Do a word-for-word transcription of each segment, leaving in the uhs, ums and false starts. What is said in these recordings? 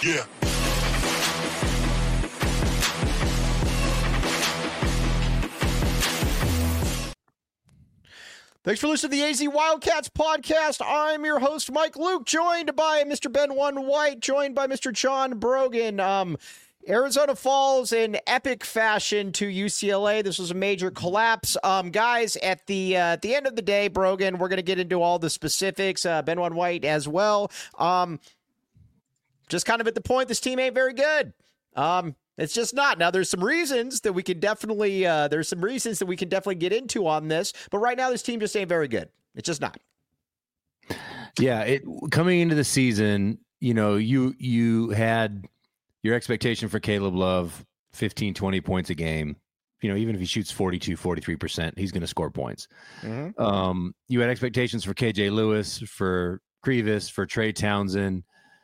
Yeah. Thanks for listening to the A Z Wildcats podcast. I'm your host, Mike Luke, joined by Mister Ben One White, joined by Mister John Brogan. Um, Arizona falls in epic fashion to U C L A. This was a major collapse. Um, guys, at the uh, at the end of the day, Brogan, we're going to get into all the specifics. Uh, Ben One White as well. Um, just kind of at the point, this team ain't very good. Um, It's just not. Now, there's some reasons that we can definitely, uh, there's some reasons that we can definitely get into on this, but right now this team just ain't very good. It's just not. Yeah, it coming into the season, you know, you you had your expectation for Caleb Love, fifteen, twenty points a game. You know, even if he shoots forty-two, forty-three percent, he's going to score points. Mm-hmm. Um, you had expectations for K J Lewis, for Krivas, for Trey Townsend,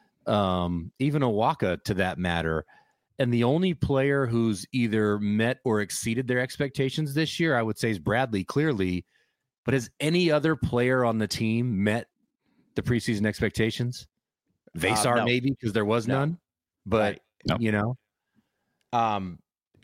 um, even Awaka to that matter. And the only player who's either met or exceeded their expectations this year, I would say, is Bradley, clearly. But has any other player on the team met the preseason expectations? Vasar, uh, no. maybe, because there was no. none. But, right. no. you know. Um,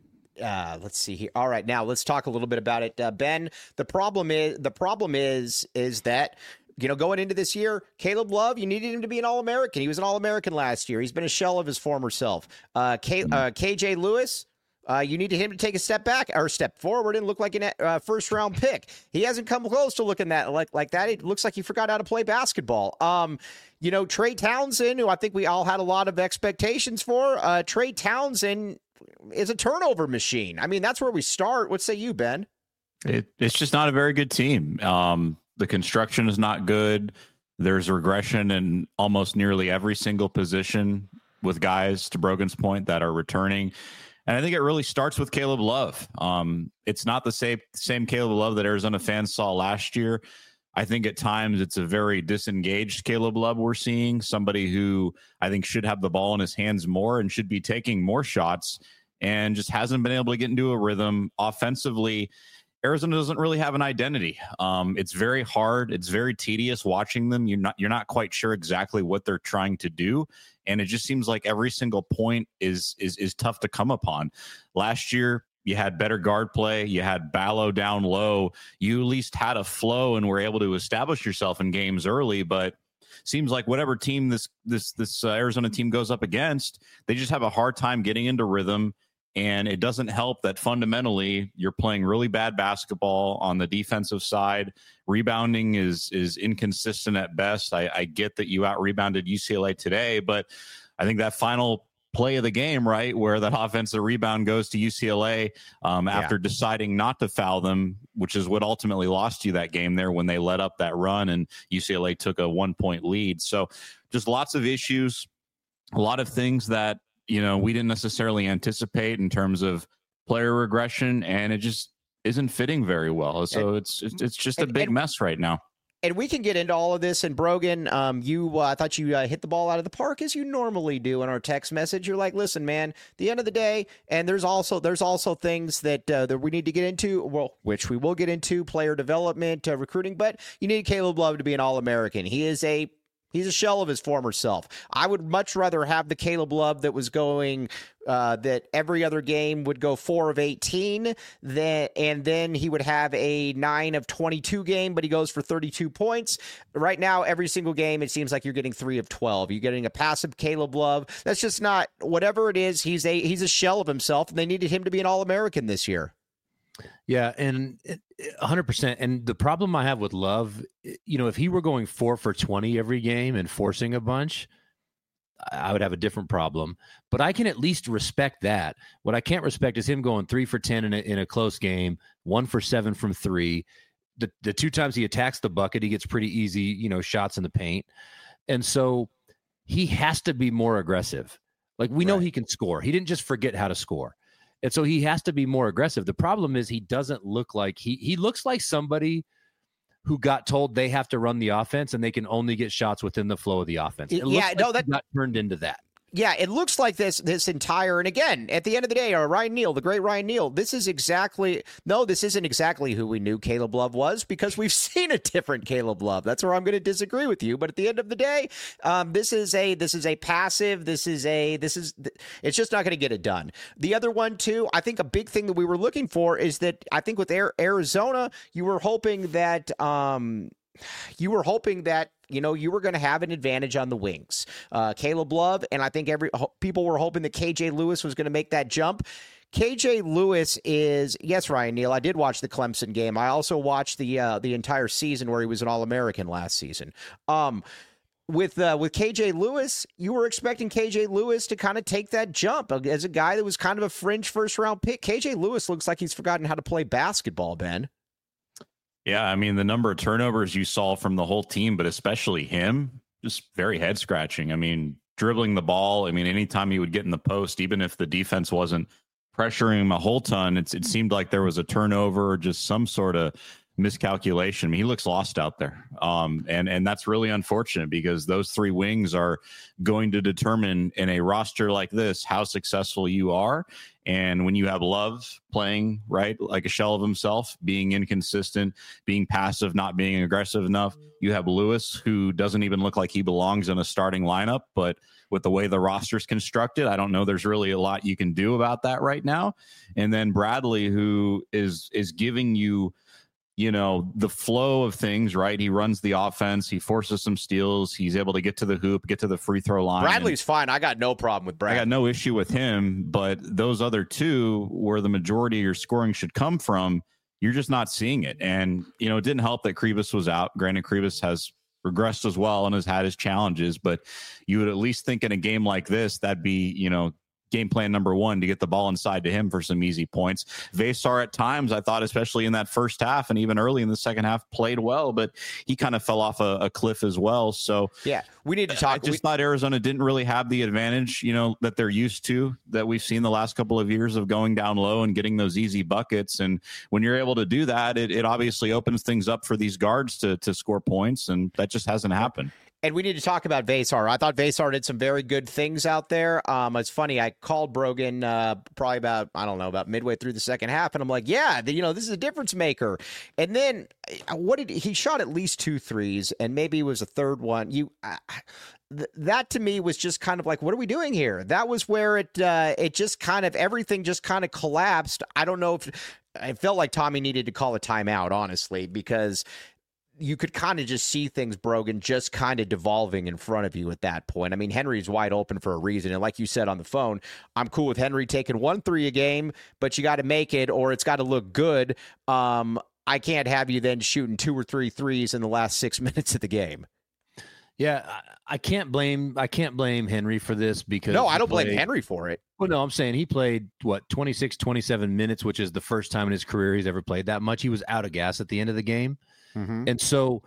uh, let's see here. All right, now let's talk a little bit about it. Uh, Ben, the problem is, the problem is, is that, you know, going into this year, Caleb Love, you needed him to be an All-American. He was an All-American last year. He's been a shell of his former self. Uh, K, uh, K J Lewis, uh, you needed him to take a step back or step forward and look like a uh, first-round pick. He hasn't come close to looking that like like that. It looks like he forgot how to play basketball. Um, you know, Trey Townsend, who I think we all had a lot of expectations for. Uh, Trey Townsend is a turnover machine. I mean, that's where we start. What say you, Ben? It, it's just not a very good team. Um, The construction is not good. There's regression in almost nearly every single position with guys, to Brogan's point, that are returning. And I think it really starts with Caleb Love. Um, it's not the same, same Caleb Love that Arizona fans saw last year. I think at times it's a very disengaged Caleb Love we're seeing, somebody who I think should have the ball in his hands more and should be taking more shots and just hasn't been able to get into a rhythm offensively. Arizona doesn't really have an identity. Um, it's very hard. It's very tedious watching them. You're not you're not quite sure exactly what they're trying to do, and it just seems like every single point is is is tough to come upon. Last year, you had better guard play. You had Ballo down low. You at least had a flow and were able to establish yourself in games early. But seems like whatever team this this this uh, Arizona team goes up against, they just have a hard time getting into rhythm. And it doesn't help that fundamentally you're playing really bad basketball on the defensive side. Rebounding is is inconsistent at best. I, I get that you out-rebounded U C L A today, but I think that final play of the game, right, where that offensive rebound goes to U C L A um, after yeah. deciding not to foul them, which is what ultimately lost you that game there when they let up that run and U C L A took a one-point lead. So just lots of issues, a lot of things that, you know, we didn't necessarily anticipate in terms of player regression, and it just isn't fitting very well. So and, it's it's just a big and, mess right now. And we can get into all of this. And Brogan, um, you, uh, I thought you uh, hit the ball out of the park as you normally do in our text message. You're like, listen, man, the end of the day, and there's also there's also things that uh, that we need to get into, well, which we will get into, player development, uh, recruiting. But you need Caleb Love to be an All-American. He is a He's a shell of his former self. I would much rather have the Caleb Love that was going, uh, that every other game would go four of eighteen, that, and then he would have a nine of twenty-two game, but he goes for thirty-two points. Right now, every single game, it seems like you're getting three of twelve. You're getting a passive Caleb Love. That's just not, whatever it is, he's a he's a shell of himself, and they needed him to be an All-American this year. Yeah, and one hundred percent. And the problem I have with Love, you know, if he were going four for twenty every game and forcing a bunch, I would have a different problem. But I can at least respect that. What I can't respect is him going three for ten in a, in a close game, one for seven from three. The, the two times he attacks the bucket, he gets pretty easy, you know, shots in the paint. And so he has to be more aggressive. Like, we know right. he can score. He didn't just forget how to score. And so he has to be more aggressive. The problem is he doesn't look like he he looks like somebody who got told they have to run the offense and they can only get shots within the flow of the offense. It yeah, looks no, like that he got turned into that. Yeah, it looks like this this entire, and again, at the end of the day, or Ryan Neal, the great Ryan Neal, this is exactly, no, this isn't exactly who we knew Caleb Love was, because we've seen a different Caleb Love. That's where I'm going to disagree with you. But at the end of the day, um, this is a this is a passive, this is a, this is, it's just not going to get it done. The other one, too, I think a big thing that we were looking for is that I think with Arizona, you were hoping that, um, you were hoping that, you know, you were going to have an advantage on the wings. Uh, Caleb Love, and I think every people were hoping that K J Lewis was going to make that jump. K J Lewis is, yes, Ryan Neal, I did watch the Clemson game. I also watched the uh, the entire season where he was an All-American last season. Um, with uh, with K J Lewis, you were expecting K J Lewis to kind of take that jump as a guy that was kind of a fringe first-round pick. K J Lewis looks like he's forgotten how to play basketball, Ben. Yeah, I mean, the number of turnovers you saw from the whole team, but especially him, just very head scratching. I mean, dribbling the ball. I mean, anytime he would get in the post, even if the defense wasn't pressuring him a whole ton, it's, it seemed like there was a turnover or just some sort of miscalculation. I mean, he looks lost out there. Um, and, and that's really unfortunate because those three wings are going to determine in a roster like this how successful you are. And when you have Love playing, right, like a shell of himself, being inconsistent, being passive, not being aggressive enough, you have Lewis, who doesn't even look like he belongs in a starting lineup. But with the way the roster's constructed, I don't know there's really a lot you can do about that right now. And then Bradley, who is is giving you, you know, the flow of things, right? He runs the offense. He forces some steals. He's able to get to the hoop, get to the free throw line. Bradley's fine. I got no problem with Bradley. I got no issue with him, but those other two, where the majority of your scoring should come from, you're just not seeing it. And, you know, it didn't help that Kribas was out. Granted, Kribas has regressed as well and has had his challenges, but you would at least think in a game like this, that'd be, you know, game plan number one, to get the ball inside to him for some easy points. Vesar at times, I thought, especially in that first half and even early in the second half, played well, but he kind of fell off a, a cliff as well. So yeah, we need to talk. I just we, thought Arizona didn't really have the advantage, you know, that they're used to, that we've seen the last couple of years of going down low and getting those easy buckets. And when you're able to do that, it, it obviously opens things up for these guards to to score points, and that just hasn't happened. And we need to talk about Vesar. I thought Vesar did some very good things out there. Um, it's funny. I called Brogan uh, probably about, I don't know, about midway through the second half. And I'm like, yeah, the, you know, this is a difference maker. And then what did he shot at least two threes, and maybe it was a third one. You uh, th- That to me was just kind of like, what are we doing here? That was where it uh, it just kind of, everything just kind of collapsed. I don't know if, I felt like Tommy needed to call a timeout, honestly, because you could kind of just see things, Brogan, just kind of devolving in front of you at that point. I mean, Henry's wide open for a reason. And like you said on the phone, I'm cool with Henry taking one three a game, but you got to make it, or it's got to look good. Um, I can't have you then shooting two or three threes in the last six minutes of the game. Yeah, I, I can't blame I can't blame Henry for this, because no, I don't played, blame Henry for it. Well, no, I'm saying he played what twenty-six, twenty-seven minutes, which is the first time in his career he's ever played that much. He was out of gas at the end of the game. Mm-hmm. And so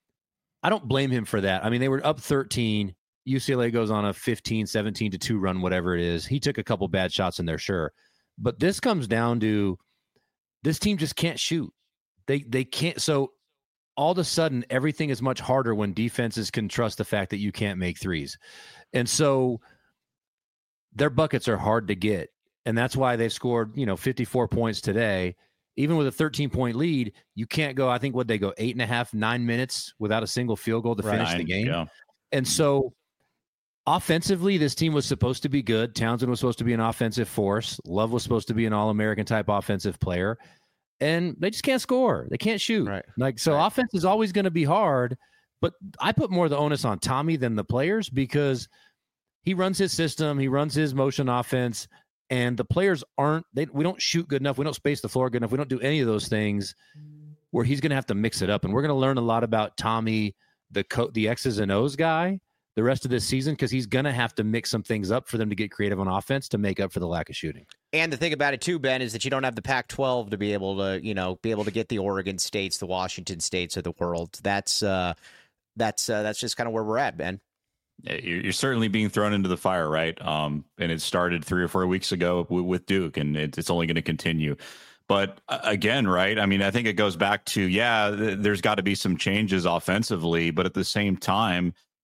I don't blame him for that. I mean, they were up thirteen. U C L A goes on a fifteen, seventeen to two run, whatever it is. He took a couple bad shots in there, sure. But this comes down to this team just can't shoot. They they can't. So all of a sudden, everything is much harder when defenses can trust the fact that you can't make threes. And so their buckets are hard to get. And that's why they've scored, you know, fifty-four points today. Even with a thirteen-point lead, you can't go, I think, what they go, eight and a half, nine minutes without a single field goal to right. finish the game. Yeah. And so offensively, this team was supposed to be good. Townsend was supposed to be an offensive force. Love was supposed to be an All-American type offensive player. And they just can't score. They can't shoot. Right. Like, so right. offense is always going to be hard. But I put more of the onus on Tommy than the players, because he runs his system. He runs his motion offense. And the players aren't, they, we don't shoot good enough. We don't space the floor good enough. We don't do any of those things where he's going to have to mix it up. And we're going to learn a lot about Tommy, the co- the X's and O's guy, the rest of this season, because he's going to have to mix some things up for them to get creative on offense to make up for the lack of shooting. And the thing about it too, Ben, is that you don't have the Pac twelve to be able to, you know, be able to get the Oregon States, the Washington States of the world. That's, uh, that's, uh, that's just kind of where we're at, Ben. You're certainly being thrown into the fire, right? Um, and it started three or four weeks ago with Duke, and it's only going to continue. But again, right? I mean, I think it goes back to, yeah, there's got to be some changes offensively, but at the same time,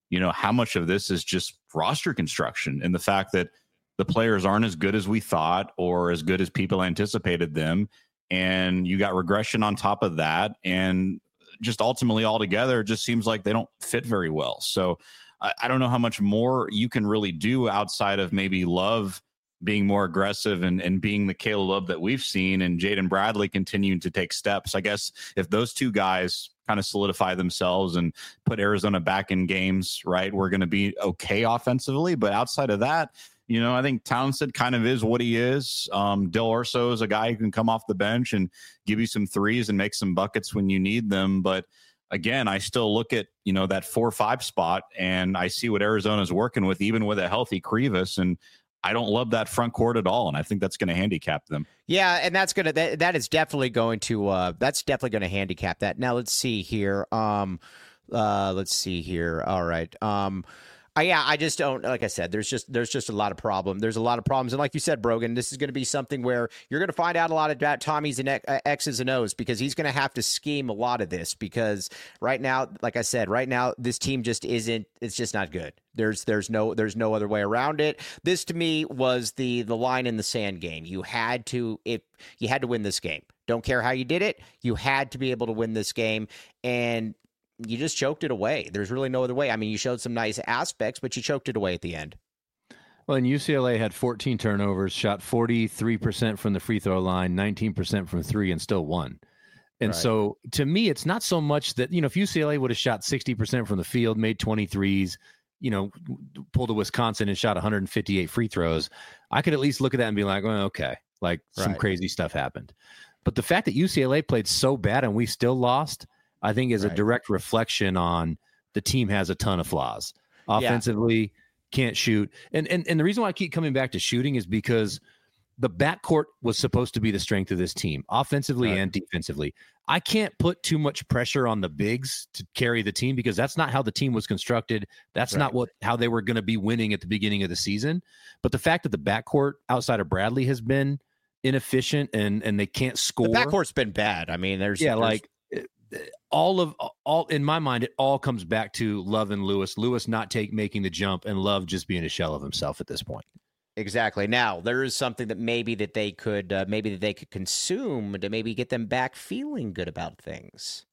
you know, how much of this is just roster construction and the fact that the players aren't as good as we thought or as good as people anticipated them. And you got regression on top of that. And just ultimately altogether, it just seems like they don't fit very well. So I, I don't know how much more you can really do outside of maybe Love being more aggressive and, and being the Caleb Love that we've seen, and Jaden Bradley continuing to take steps. I guess if those two guys kind of solidify themselves and put Arizona back in games, right, we're going to be okay offensively. But outside of that, you know, I think Townsend kind of is what he is. Um, Del Orso is a guy who can come off the bench and give you some threes and make some buckets when you need them. But again, I still look at, you know, that four or five spot, and I see what Arizona's working with, even with a healthy Krivas. And I don't love that front court at all. And I think that's going to handicap them. Yeah. And that's going to, that, that is definitely going to, uh, that's definitely going to handicap that. Now let's see here. Um, uh, let's see here. All right. Um, Uh, yeah, I just don't, like I said, there's just there's just a lot of problem. There's a lot of problems. And like you said, Brogan, this is going to be something where you're going to find out a lot about Tommy's and X's and O's, because he's going to have to scheme a lot of this, because right now, like I said, right now, this team just isn't, it's just not good. There's there's no there's no other way around it. This to me was the the line in the sand game. You had to if you had to win this game. Don't care how you did it. You had to be able to win this game. And you just choked it away. There's really no other way. I mean, you showed some nice aspects, but you choked it away at the end. Well, and U C L A had fourteen turnovers, shot forty-three percent from the free throw line, nineteen percent from three, and still won. And right. So to me, it's not so much that, you know, if U C L A would have shot sixty percent from the field, made twenty-threes, you know, pulled to Wisconsin and shot one hundred fifty-eight free throws, I could at least look at that and be like, well, okay, like some right. crazy stuff happened. But the fact that U C L A played so bad and we still lost, I think is right. a direct reflection on the team has a ton of flaws. Offensively, yeah. can't shoot. And, and and the reason why I keep coming back to shooting is because the backcourt was supposed to be the strength of this team, offensively right. and defensively. I can't put too much pressure on the bigs to carry the team, because that's not how the team was constructed. That's right. not what how they were going to be winning at the beginning of the season. But the fact that the backcourt outside of Bradley has been inefficient and and they can't score. The backcourt's been bad. I mean, there's yeah, there's, like. all of all in my mind, it all comes back to Love and Lewis. Lewis not take making the jump, and Love just being a shell of himself at this point. Exactly. Now there is something that maybe that they could uh, maybe that they could consume to maybe get them back feeling good about things.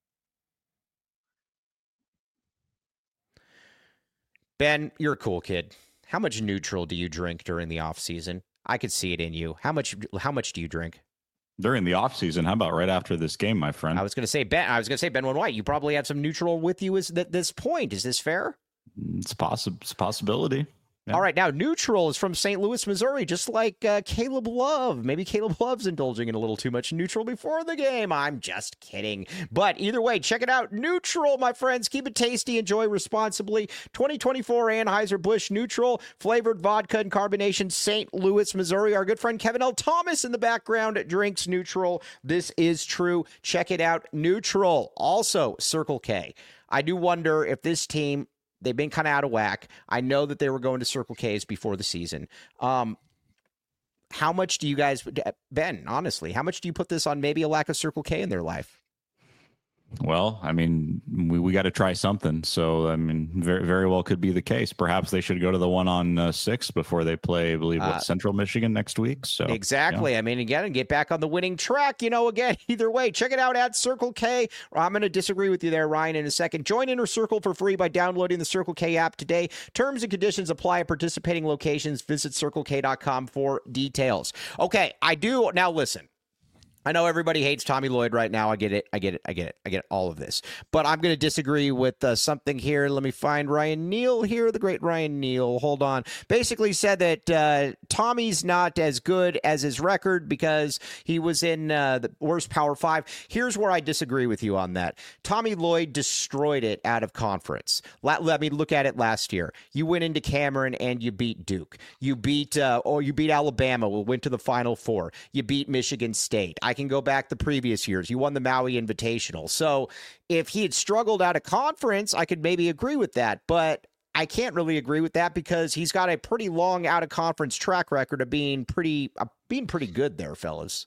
Ben, you're a cool kid. How much neutral do you drink during the off season? I could see it in you. How much? How much do you drink? During the offseason, how about right after this game, my friend? I was going to say Ben. I was going to say Ben White. You probably have some neutral with you at this point. Is this fair? It's possible. It's a possibility. Yeah. All right, now neutral is from Saint Louis, Missouri, just like uh, Caleb Love. Maybe Caleb Love's indulging in a little too much neutral before the game. I'm just kidding. But either way, check it out. Neutral, my friends. Keep it tasty. Enjoy responsibly. twenty twenty-four Anheuser-Busch Neutral, flavored vodka and carbonation, Saint Louis, Missouri. Our good friend Kevin L. Thomas in the background drinks neutral. This is true. Check it out. Neutral. Also, Circle K. I do wonder if this team... They've been kind of out of whack. I know that they were going to Circle K's before the season. Um, how much do you guys, Ben, honestly, how much do you put this on maybe a lack of Circle K in their life? Well, I mean, we, we got to try something. So, I mean, very very well could be the case. Perhaps they should go to the one on uh, six before they play, I believe, what, uh, Central Michigan next week. So exactly. Yeah. I mean, again, and get back on the winning track, you know, again, either way, check it out at Circle K. I'm going to disagree with you there, Ryan, in a second. Join Inner Circle for free by downloading the Circle K app today. Terms and conditions apply at participating locations. Visit circle k dot com for details. Okay, I do. Now, listen. I know everybody hates Tommy Lloyd right now. I get it. I get it. I get it. I get all of this. But I'm going to disagree with uh, something here. Let me find Ryan Neal here, the great Ryan Neal. Hold on. Basically said that uh, Tommy's not as good as his record because he was in uh, the worst Power Five. Here's where I disagree with you on that. Tommy Lloyd destroyed it out of conference. Let, let me look at it last year. You went into Cameron and you beat Duke. You beat uh, or you beat Alabama. We went to the Final Four. You beat Michigan State. I I can go back the previous years. You won the Maui Invitational. So if he had struggled out of conference, I could maybe agree with that. But I can't really agree with that because he's got a pretty long out of conference track record of being pretty uh, being pretty good there, fellas.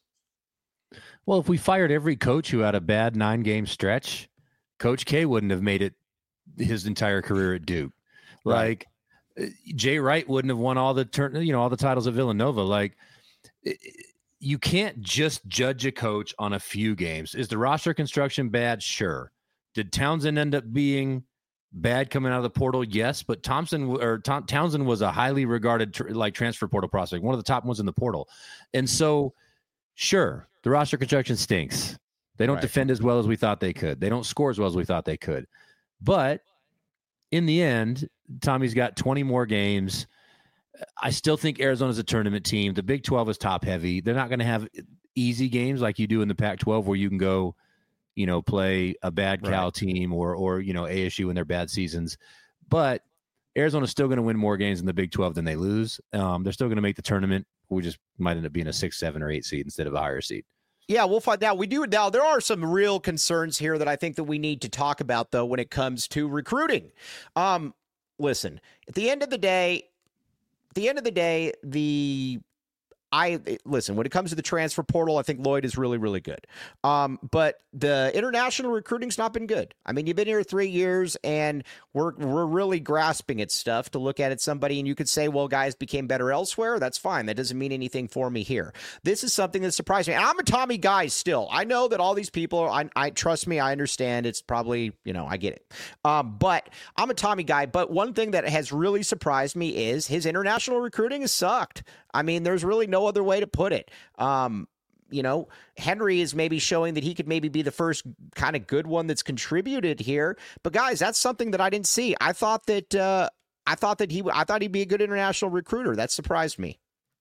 Well, if we fired every coach who had a bad nine game stretch, Coach K wouldn't have made it his entire career at Duke. Right. Like Jay Wright wouldn't have won all the turn, you know, all the titles at Villanova. Like it, you can't just judge a coach on a few games. Is the roster construction bad? Sure. Did Townsend end up being bad coming out of the portal? Yes, but Thompson or Tom, Townsend was a highly regarded tr- like transfer portal prospect, one of the top ones in the portal. And so, sure, the roster construction stinks. They don't Right. defend as well as we thought they could. They don't score as well as we thought they could. But in the end, Tommy's got twenty more games. I still think Arizona's a tournament team. The Big twelve is top heavy. They're not going to have easy games like you do in the Pac twelve where you can go, you know, play a bad Cal Right. team or, or, you know, A S U in their bad seasons. But Arizona's still going to win more games in the Big twelve than they lose. Um, they're still going to make the tournament. We just might end up being a six, seven, or eight seed instead of a higher seed. Yeah, we'll find out. We do now. There are some real concerns here that I think that we need to talk about, though, when it comes to recruiting. Um, listen, at the end of the day, at the end of the day, the I listen, when it comes to the transfer portal, I think Lloyd is really, really good. Um, but the international recruiting's not been good. I mean, you've been here three years and we're we're really grasping at stuff to look at it somebody, and you could say, well, guys became better elsewhere. That's fine. That doesn't mean anything for me here. This is something that surprised me. And I'm a Tommy guy still. I know that all these people, I, I trust me, I understand. It's probably, you know, I get it. Um, but I'm a Tommy guy. But one thing that has really surprised me is his international recruiting has sucked. I mean, there's really no other way to put it. Um, you know, Henry is maybe showing that he could maybe be the first kind of good one that's contributed here. But guys, that's something that I didn't see. I thought that uh, I thought that he I thought he'd be a good international recruiter. That surprised me.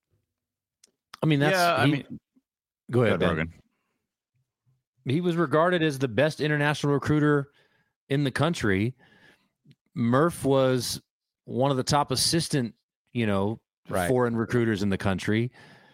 I mean, that's yeah, I he, mean, go ahead, go Ben. Rogan. He was regarded as the best international recruiter in the country. Murph was one of the top assistant, you know, Right. foreign recruiters in the country.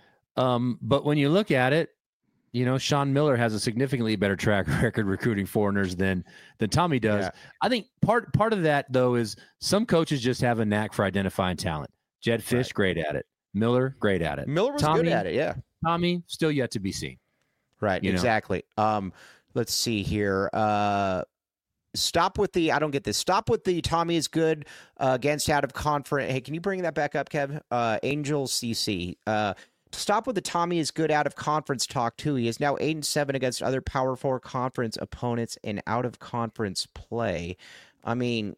Um, but when you look at it, you know, Sean Miller has a significantly better track record recruiting foreigners than than Tommy does. Yeah. I think part part of that, though, is some coaches just have a knack for identifying talent. Jed Fish, Right. great at it. Miller, great at it. Miller was Tommy, good at it. Yeah. Tommy, still yet to be seen. Right. You know? Exactly. Um, let's see here. Uh, Stop with the, I don't get this. Stop with the Tommy is good uh, against out of conference. Hey, can you bring that back up, Kev? Uh, Angel C C. Uh, stop with the Tommy is good out of conference talk, too. He is now eight and seven against other Power Four conference opponents in out of conference play. I mean,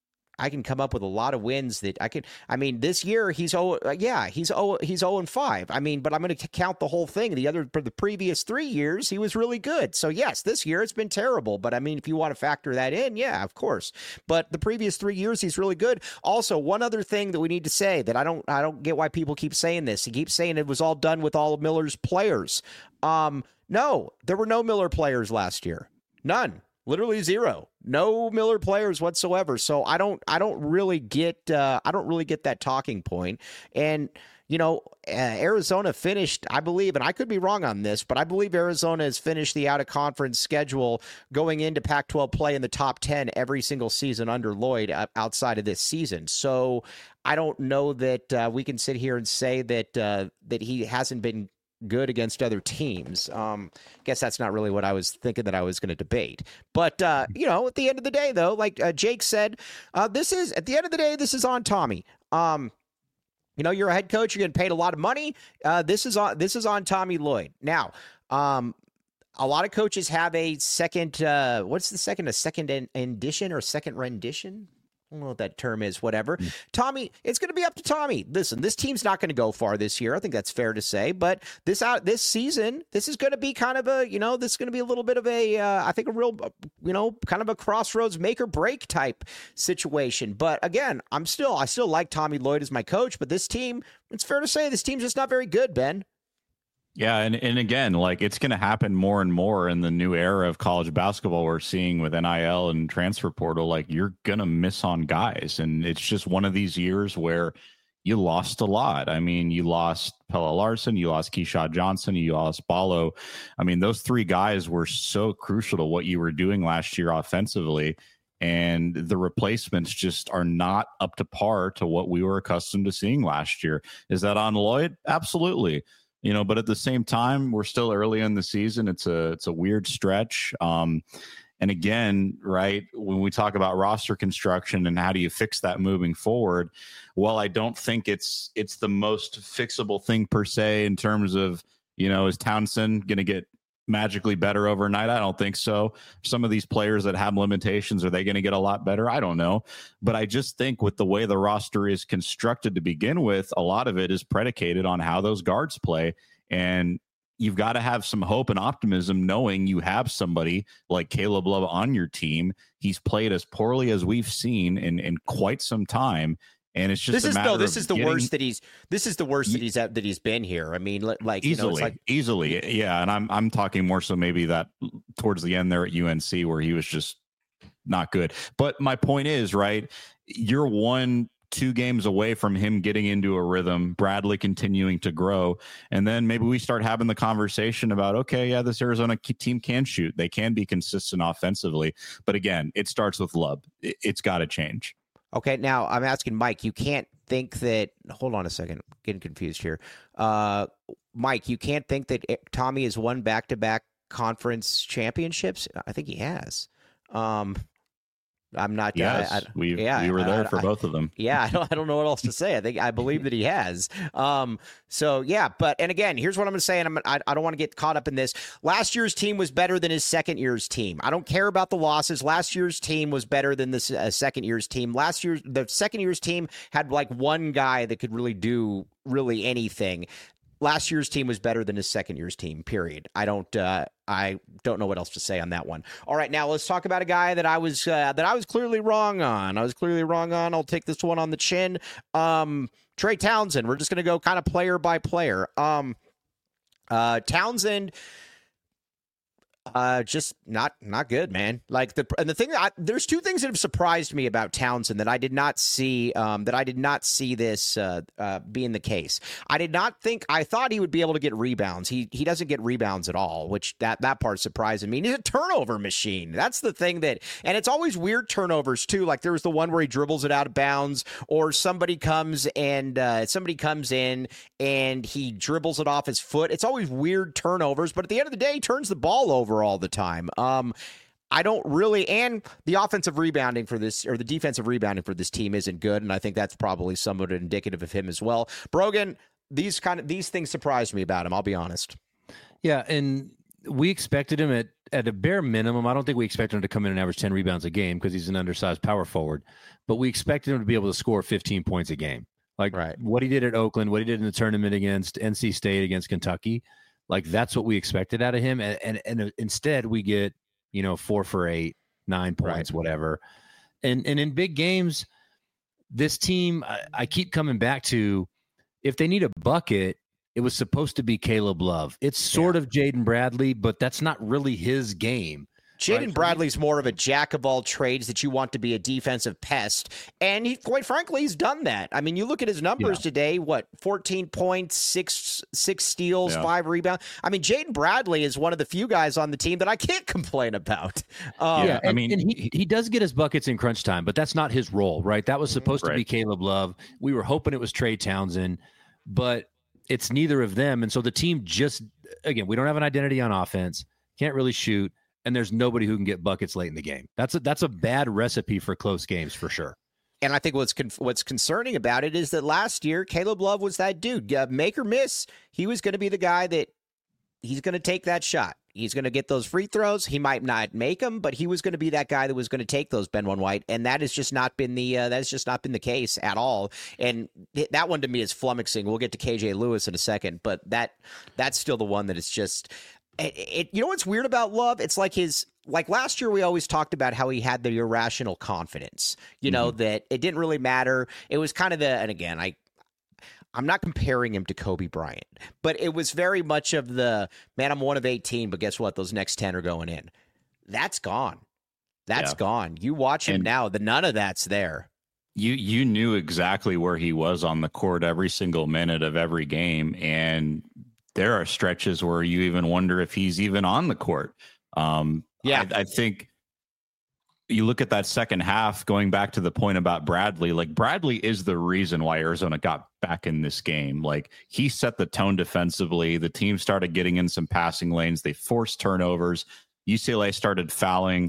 I can come up with a lot of wins that I can. I mean, this year he's oh yeah he's oh he's zero and five. I mean, but I'm going to count the whole thing. The other for the previous three years he was really good. So yes, this year it's been terrible. But I mean, if you want to factor that in, yeah, of course. But the previous three years he's really good. Also, one other thing that we need to say that I don't I don't get why people keep saying this. He keeps saying it was all done with all of Miller's players. Um, no, there were no Miller players last year. None. Literally zero. No Miller players whatsoever. So I don't I don't really get uh, I don't really get that talking point. And you know, uh, Arizona finished, I believe, and I could be wrong on this, but I believe Arizona has finished the out of conference schedule going into Pac twelve play in the top ten every single season under Lloyd uh, outside of this season. So I don't know that uh, we can sit here and say that uh, that he hasn't been good against other teams. Um, guess that's not really what I was thinking that I was going to debate. But, uh, you know, at the end of the day, though, like uh, Jake said, uh, this is, at the end of the day, this is on Tommy. Um, you know, you're a head coach, you're getting paid a lot of money. Uh, this is on, this is on Tommy Lloyd. Now, um, a lot of coaches have a second, uh, what's the second, a second in, edition or second rendition? I don't know what that term is, whatever. Mm. Tommy, it's going to be up to Tommy. Listen, this team's not going to go far this year. I think that's fair to say. But this out this season, this is going to be kind of a, you know, this is going to be a little bit of a, uh, I think a real, you know, kind of a crossroads make or break type situation. But again, I'm still, I still like Tommy Lloyd as my coach. But this team, it's fair to say this team's just not very good, Ben. Yeah, and, and again, like it's going to happen more and more in the new era of college basketball we're seeing with N I L and transfer portal. Like you're going to miss on guys. And it's just one of these years where you lost a lot. I mean, you lost Pelle Larsson, you lost Keyshawn Johnson, you lost Ballo. I mean, those three guys were so crucial to what you were doing last year offensively. And the replacements just are not up to par to what we were accustomed to seeing last year. Is that on Lloyd? Absolutely. You know, but at the same time, we're still early in the season. It's a it's a weird stretch. Um, And again, right, when we talk about roster construction and how do you fix that moving forward, well, I don't think it's it's the most fixable thing per se in terms of, you know, is Townsend going to get magically better overnight? I don't think so. Some of these players that have limitations, are they going to get a lot better? I don't know. But I just think with the way the roster is constructed to begin with, a lot of it is predicated on how those guards play. And you've got to have some hope and optimism knowing you have somebody like Caleb Love on your team. He's played as poorly as we've seen in, in quite some time. And it's just this a is matter no. This of is the getting, worst that he's. This is the worst that he's that he's been here. I mean, like easily, you know, it's like, easily, yeah. And I'm I'm talking more so maybe that towards the end there at U N C where he was just not good. But my point is, right, you're one, two games away from him getting into a rhythm, Bradley continuing to grow, and then maybe we start having the conversation about, okay, yeah, this Arizona team can shoot, they can be consistent offensively, but again, it starts with Love. It's got to change. Okay, now I'm asking Mike, you can't think that, hold on a second, I'm getting confused here. Uh, Mike, you can't think that Tommy has won back-to-back conference championships? I think he has. Um, I'm not. Yes, I, I, we yeah, we were there I, for I, both of them. Yeah, I don't, I don't know what else to say. I think I believe that he has. Um, so yeah, but and again, here's what I'm going to say, and I'm I, I don't want to get caught up in this. Last year's team was better than his second year's team. I don't care about the losses. Last year's team was better than the uh, second year's team. Last year's the second year's team had like one guy that could really do really anything. Last year's team was better than his second year's team, period. I don't uh, I don't know what else to say on that one. All right, now let's talk about a guy that I was uh, that I was clearly wrong on. I was clearly wrong on. I'll take this one on the chin. Um, Trey Townsend. We're just going to go kind of player by player. Um, uh, Townsend Uh, just not not good, man. Like the and the thing, I, there's two things that have surprised me about Townsend that I did not see. Um, that I did not see this uh, uh, being the case. I did not think. I thought he would be able to get rebounds. He he doesn't get rebounds at all, which that that part surprising me. He's a turnover machine. That's the thing that, and it's always weird turnovers too. Like there was the one where he dribbles it out of bounds, or somebody comes and uh, somebody comes in and he dribbles it off his foot. It's always weird turnovers, but at the end of the day, he turns the ball over all the time. Um, I don't really, and the offensive rebounding for this, or the defensive rebounding for this team isn't good, and I think that's probably somewhat indicative of him as well. Brogan, these kind of these things surprised me about him. I'll be honest. Yeah, and we expected him at at a bare minimum. I don't think we expected him to come in and average ten rebounds a game because he's an undersized power forward, but we expected him to be able to score fifteen points a game, like right. what he did at Oakland, what he did in the tournament against N C State, against Kentucky. Like that's what we expected out of him, and and, and instead we get, you know, four for eight, nine points, right. whatever. And and in big games, this team, I, I keep coming back to, if they need a bucket, it was supposed to be Caleb Love. It's sort yeah. of Jaden Bradley, but that's not really his game. Jaden right? Bradley's more of a jack of all trades that you want to be a defensive pest. And he, quite frankly, he's done that. I mean, you look at his numbers yeah. today, what, fourteen points, six six steals, yeah. five rebounds. I mean, Jaden Bradley is one of the few guys on the team that I can't complain about. Um, yeah, and, I mean, and he, he does get his buckets in crunch time, but that's not his role, right? That was supposed right. to be Caleb Love. We were hoping it was Trey Townsend, but it's neither of them. And so the team just, again, we don't have an identity on offense, can't really shoot, and there's nobody who can get buckets late in the game. That's a, that's a bad recipe for close games for sure. And I think what's con- what's concerning about it is that last year, Caleb Love was that dude. Uh, make or miss, he was going to be the guy that he's going to take that shot. He's going to get those free throws. He might not make them, but he was going to be that guy that was going to take those, Ben One White. And that has just not been the uh, that has just not been the case at all. And th- that one to me is flummoxing. We'll get to K J Lewis in a second, but that that's still the one that is just. It, it, you know what's weird about Love? It's like his, like last year we always talked about how he had the irrational confidence, you know, mm-hmm. that it didn't really matter. It was kind of the, and again, I, I'm not comparing him to Kobe Bryant, but it was very much of the, man, I'm one of eighteen, but guess what? Those next ten are going in. That's gone. That's yeah. gone. You watch him and now, the none of that's there. You you knew exactly where he was on the court every single minute of every game, and there are stretches where you even wonder if he's even on the court. Um, yeah, I, I think you look at that second half, going back to the point about Bradley, like Bradley is the reason why Arizona got back in this game. Like he set the tone defensively. The team started getting in some passing lanes. They forced turnovers. U C L A started fouling.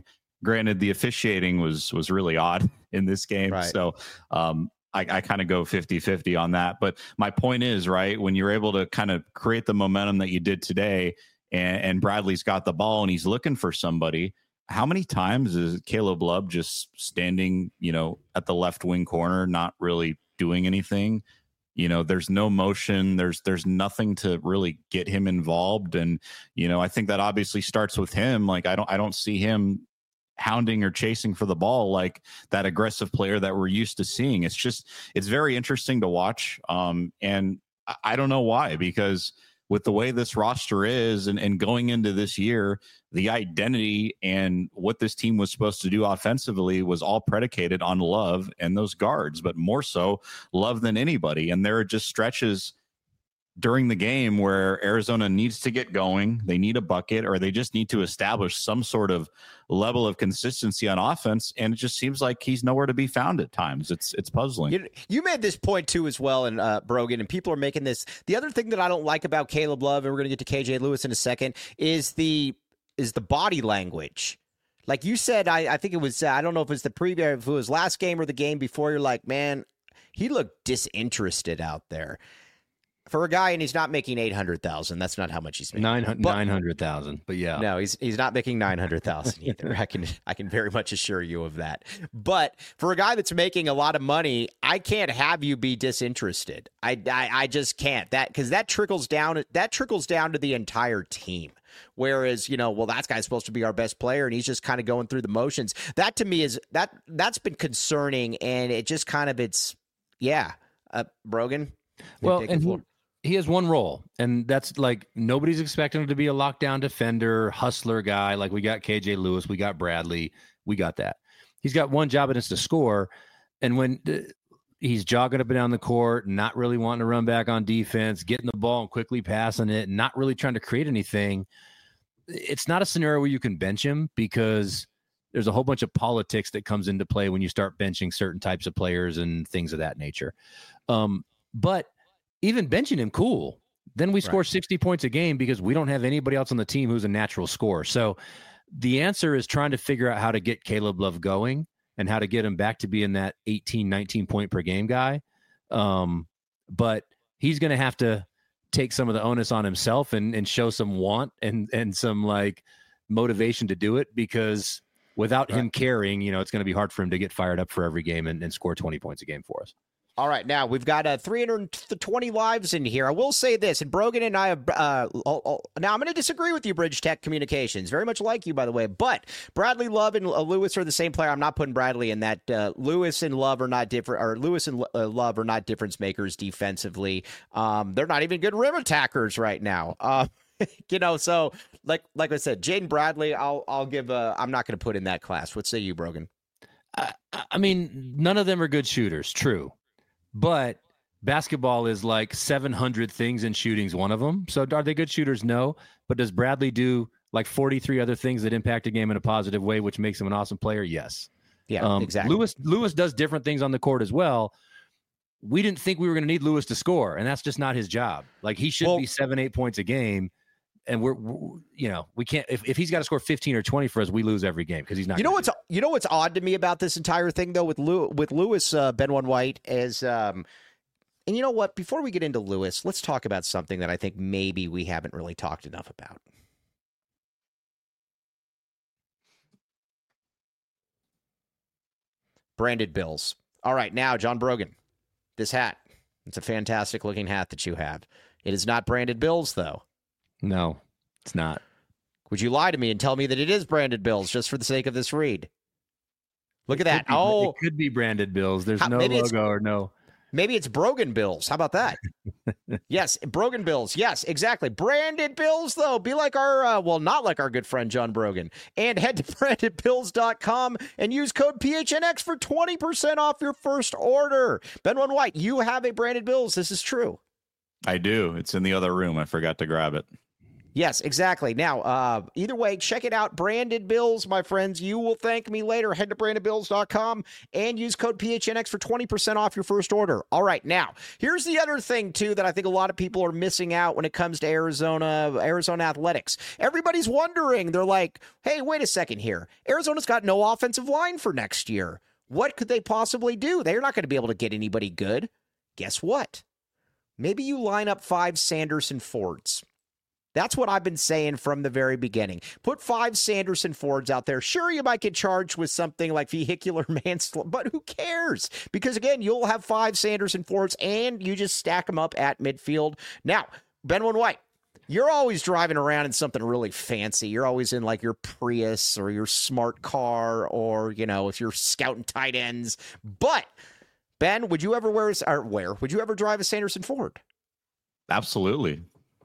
Granted, the officiating was was really odd in this game. Right. So um, I, I kind of go fifty-fifty on that. But my point is, right, when you're able to kind of create the momentum that you did today, and, and Bradley's got the ball and he's looking for somebody, how many times is Caleb Love just standing, you know, at the left wing corner, not really doing anything? You know, there's no motion. There's there's nothing to really get him involved. And, you know, I think that obviously starts with him. Like, I don't I don't see him hounding or chasing for the ball like that aggressive player that we're used to seeing. It's just, it's very interesting to watch. Um, and I, I don't know why, because with the way this roster is and, and going into this year, the identity and what this team was supposed to do offensively was all predicated on Love and those guards, but more so Love than anybody. And there are just stretches during the game where Arizona needs to get going. They need a bucket, or they just need to establish some sort of level of consistency on offense. And it just seems like he's nowhere to be found at times. It's it's puzzling. You, you made this point too as well, and uh, Brogan, and people are making this. The other thing that I don't like about Caleb Love, and we're going to get to K J Lewis in a second, is the is the body language. Like you said, I, I think it was, uh, I don't know if it was the preview, if it was last game or the game before, you're like, man, he looked disinterested out there. For a guy, and he's not making eight hundred thousand. That's not how much he's making. nine hundred thousand, but yeah. No, he's he's not making nine hundred thousand either. I can I can very much assure you of that. But for a guy that's making a lot of money, I can't have you be disinterested. I I, I just can't. That because that trickles down that trickles down to the entire team. Whereas, you know, well, that guy's supposed to be our best player and he's just kind of going through the motions. That to me is that that's been concerning, and it just kind of it's yeah. Uh, Brogan. Well, and he, he has one role, and that's like nobody's expecting him to be a lockdown defender, hustler guy. Like we got K J Lewis, we got Bradley, we got that. He's got one job, and it's to score. And when uh, he's jogging up and down the court, not really wanting to run back on defense, getting the ball and quickly passing it, not really trying to create anything, it's not a scenario where you can bench him, because there's a whole bunch of politics that comes into play when you start benching certain types of players and things of that nature. Um, but even benching him, cool. Then we score right. sixty points a game because we don't have anybody else on the team who's a natural scorer. So the answer is trying to figure out how to get Caleb Love going and how to get him back to being that eighteen, nineteen point per game guy. Um, but he's going to have to take some of the onus on himself and, and show some want and, and some like motivation to do it, because without right. him caring, you know, it's going to be hard for him to get fired up for every game and, and score twenty points a game for us. All right, now we've got uh, three hundred twenty lives in here. I will say this, and Brogan and I have, uh, I'll, I'll, now I'm going to disagree with you, Bridge Tech Communications. Very much like you, by the way, but Bradley Love and uh, Lewis are the same player. I'm not putting Bradley in that. Uh, Lewis and Love are not different, or Lewis and uh, Love are not difference makers defensively. Um, they're not even good rim attackers right now. Uh, you know, so like like I said, Jaden Bradley, I'll I'll give. A, I'm not going to put in that class. What say you, Brogan? I, I mean, none of them are good shooters. True. But basketball is like seven hundred things, and shooting's one of them. So are they good shooters? No. But does Bradley do like forty-three other things that impact a game in a positive way, which makes him an awesome player? Yes. Yeah, um, exactly. Lewis Lewis does different things on the court as well. We didn't think we were going to need Lewis to score, and that's just not his job. Like he should well, be seven, eight points a game. And we're, we're, you know, we can't, if, if he's got to score fifteen or twenty for us, we lose every game because he's not. You know what's, you know what's odd to me about this entire thing, though, with Lew, with Lewis, uh, Benwan White, is, um, and you know what, before we get into Lewis, let's talk about something that I think maybe we haven't really talked enough about. Branded bills. All right, now, John Brogan, this hat, it's a fantastic looking hat that you have. It is not branded bills, though. No, it's not. Would you lie to me and tell me that it is branded bills just for the sake of this read? Look it at that. Be, oh, it could be branded bills. There's how, no logo or no. Maybe it's Brogan bills. How about that? Yes, Brogan bills. Yes, exactly. Branded bills, though. Be like our, uh, well, not like our good friend John Brogan. And head to branded bills dot com and use code P H N X for twenty percent off your first order. Benwan White, you have a branded bills. This is true. I do. It's in the other room. I forgot to grab it. Yes, exactly. Now, uh, either way, check it out. Branded Bills, my friends. You will thank me later. Head to branded bills dot com and use code P H N X for twenty percent off your first order. All right, now, here's the other thing, too, that I think a lot of people are missing out when it comes to Arizona, Arizona athletics. Everybody's wondering. They're like, hey, wait a second here. Arizona's got no offensive line for next year. What could they possibly do? They're not going to be able to get anybody good. Guess what? Maybe you line up five Sanderson Fords. That's what I've been saying from the very beginning. Put five Sanderson Fords out there. Sure, you might get charged with something like vehicular manslaughter, but who cares? Because, again, you'll have five Sanderson Fords, and you just stack them up at midfield. Now, Benwin White, you're always driving around in something really fancy. You're always in, like, your Prius or your smart car or, you know, if you're scouting tight ends. But, Ben, would you ever wear, or wear, would you ever drive a Sanderson Ford? Absolutely.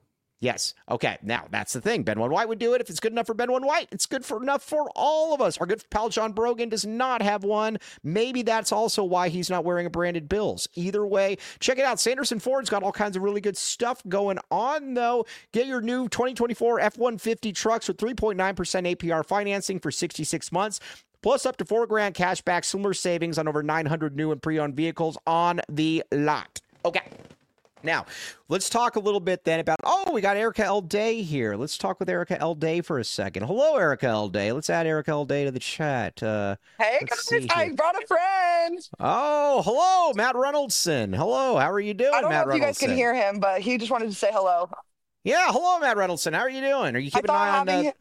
Yes. Okay. Now, that's the thing. Benwin White would do it. If it's good enough for Benwin White, it's good for enough for all of us. Our good pal John Brogan does not have one. Maybe that's also why he's not wearing a branded Bills. Either way, check it out. Sanderson Ford's got all kinds of really good stuff going on, though. Get your new twenty twenty-four F one fifty trucks with three point nine percent A P R financing for sixty-six months. Plus up to four grand cash back, similar savings on over nine hundred new and pre-owned vehicles on the lot. Okay. Now, let's talk a little bit then about, oh, we got Erica L. Day here. Let's talk with Erica L. Day for a second. Hello, Erica L. Day. Let's add Erica L. Day to the chat. Uh, hey, guys, I brought a friend. Oh, hello, Matt Reynoldson. Hello, how are you doing, I don't Matt know if you guys can hear him, but he just wanted to say hello. Yeah, hello, Matt Reynoldson. How are you doing? Are you keeping an eye on that? Uh...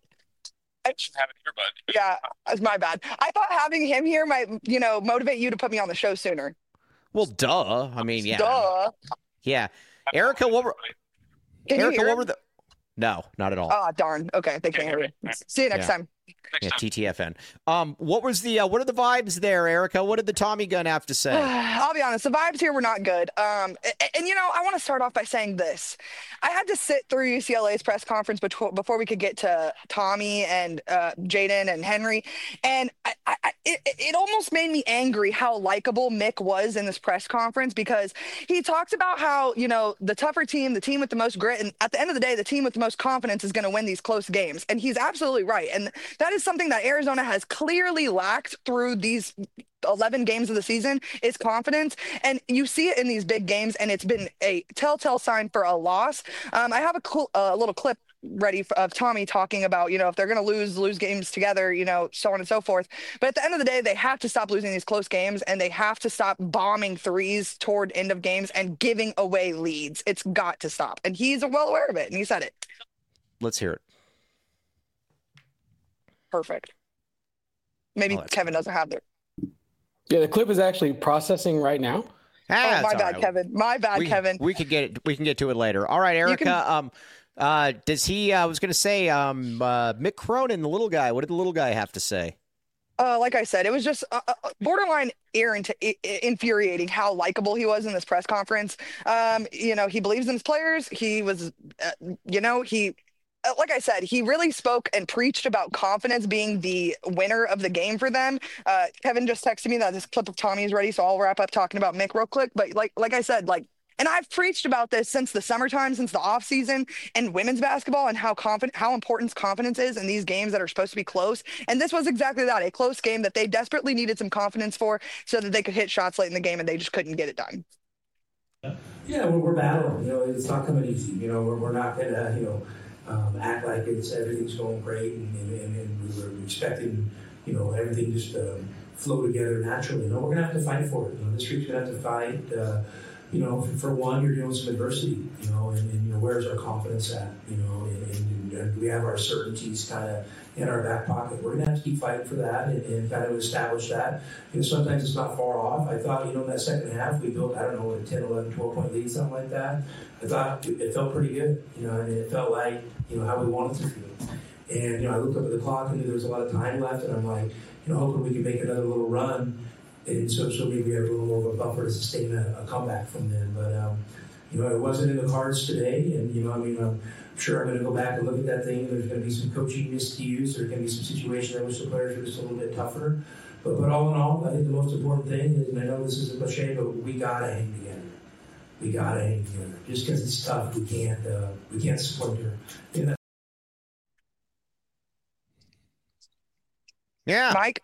I just have it here, bud. Yeah, it's my bad. I thought having him here might, you know, motivate you to put me on the show sooner. Well, duh. I mean, yeah. Duh. Yeah. Erica, what were Can Erica, you hear what him? were the No, not at all. Oh, darn. Okay, they can't hear you. See you next Yeah. time. Yeah, T T F N. Um, what was the uh, what are the vibes there, Erica? What did the Tommy gun have to say? I'll be honest, the vibes here were not good. Um, and, and you know, I want to start off by saying this. I had to sit through U C L A's press conference before, before we could get to Tommy and uh, Jaden and Henry, and I, I, it, it almost made me angry how likable Mick was in this press conference, because he talks about how, you know, the tougher team, the team with the most grit, and at the end of the day, the team with the most confidence is going to win these close games, and he's absolutely right. And that is something that Arizona has clearly lacked through these eleven games of the season, is confidence. And you see it in these big games, and it's been a telltale sign for a loss. Um, I have a cl- uh, little clip ready for, of Tommy talking about, you know, if they're going to lose, lose games together, you know, so on and so forth. But at the end of the day, they have to stop losing these close games, and they have to stop bombing threes toward end of games and giving away leads. It's got to stop. And he's well aware of it, and he said it. Let's hear it. Perfect. Maybe Oh, Kevin doesn't have it. Yeah, the clip is actually processing right now. Ah, Oh, my it's all bad, right. Kevin. My bad, we, Kevin. We could get it. We can get to it later. All right, Erica. can- Um, uh, does he? I was going to say, um, uh, Mick Cronin, the little guy. What did the little guy have to say? Uh, like I said, it was just uh, uh, borderline irrit- i- i- infuriating how likable he was in this press conference. Um, you know, he believes in his players. He was, uh, you know, he, uh, like I said, he really spoke and preached about confidence being the winner of the game for them. Uh, Kevin just texted me that this clip of Tommy is ready, so I'll wrap up talking about Mick real quick. But like, like I said, like, and I've preached about this since the summertime, since the off season, and women's basketball, and how confident, how important confidence is in these games that are supposed to be close. And this was exactly that, a close game that they desperately needed some confidence for, so that they could hit shots late in the game, and they just couldn't get it done. Yeah, we're, we're battling. You know, it's not coming easy. You know, we're, we're not gonna, you know, um, act like it's everything's going great, and, and, and we were expecting, you know, everything just to flow together naturally. No, we're gonna have to fight for it. You know, this week's gonna have to fight. Uh, You know, for, for one, you're dealing with some adversity, you know, and, and you know, where's our confidence at, you know, and, and, and we have our certainties kind of in our back pocket. We're going to have to keep fighting for that and, and kind of establish that. You know, sometimes it's not far off. I thought, you know, in that second half, we built, I don't know, a ten, eleven, twelve point lead, something like that. I thought it, it felt pretty good, you know, and it felt like, you know, how we wanted to feel. And, you know, I looked up at the clock and there was a lot of time left, and I'm like, you know, hoping we can make another little run. And so, so maybe we have a little more of a buffer to sustain a, a comeback from them. But, um, you know, it wasn't in the cards today. And, you know, I mean, I'm sure I'm going to go back and look at that thing. There's going to be some coaching miscues. There's going to be some situations in which the players are just a little bit tougher. But, but all in all, I think the most important thing is, and I know this is a cliche, but we got to hang together. We got to hang together. Just because it's tough, we can't, uh, we can't splinter. You know, Yeah. Mike?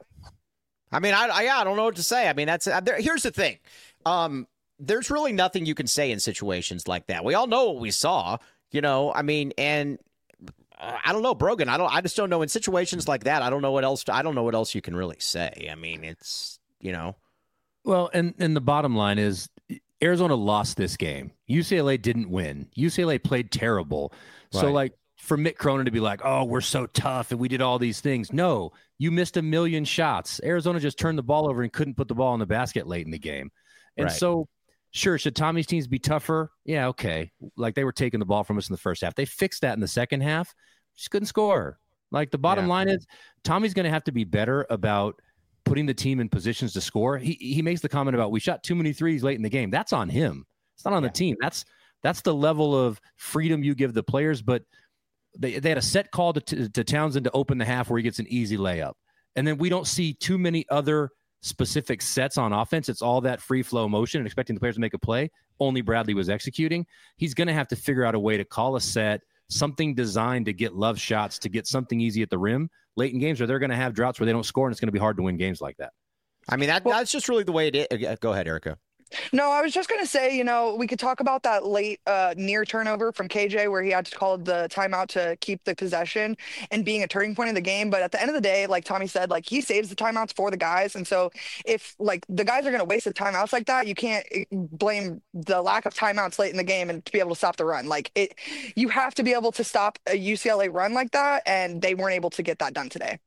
I mean, I, I, yeah, I don't know what to say. I mean, that's uh, there, here's the thing. Um, there's really nothing you can say in situations like that. We all know what we saw, you know, I mean, and uh, I don't know, Brogan. I don't, I just don't know in situations like that. I don't know what else, I don't know what else you can really say. I mean, it's, you know. Well, and, and the bottom line is Arizona lost this game. U C L A didn't win. U C L A played terrible. Right. So like for Mick Cronin to be like, oh, we're so tough and we did all these things. No, you missed a million shots. Arizona just turned the ball over and couldn't put the ball in the basket late in the game. And right. so, sure, should Tommy's teams be tougher? Yeah, okay. Like they were taking the ball from us in the first half. They fixed that in the second half. Just couldn't score. Like the bottom yeah. line is Tommy's going to have to be better about putting the team in positions to score. He he makes the comment about we shot too many threes late in the game. That's on him. It's not on yeah. the team. That's that's the level of freedom you give the players. But they, they had a set call to, to, to Townsend to open the half where he gets an easy layup. And then we don't see too many other specific sets on offense. It's all that free flow motion and expecting the players to make a play. Only Bradley was executing. He's going to have to figure out a way to call a set, something designed to get love shots, to get something easy at the rim late in games, or they're going to have droughts where they don't score, and it's going to be hard to win games like that. I mean, that, well, that's just really the way it is. Go ahead, Erica. No, I was just going to say, you know, we could talk about that late uh, near turnover from K J where he had to call the timeout to keep the possession and being a turning point in the game. But at the end of the day, like Tommy said, like he saves the timeouts for the guys. And so if like the guys are going to waste the timeouts like that, you can't blame the lack of timeouts late in the game and to be able to stop the run. Like it, you have to be able to stop a U C L A run like that. And they weren't able to get that done today.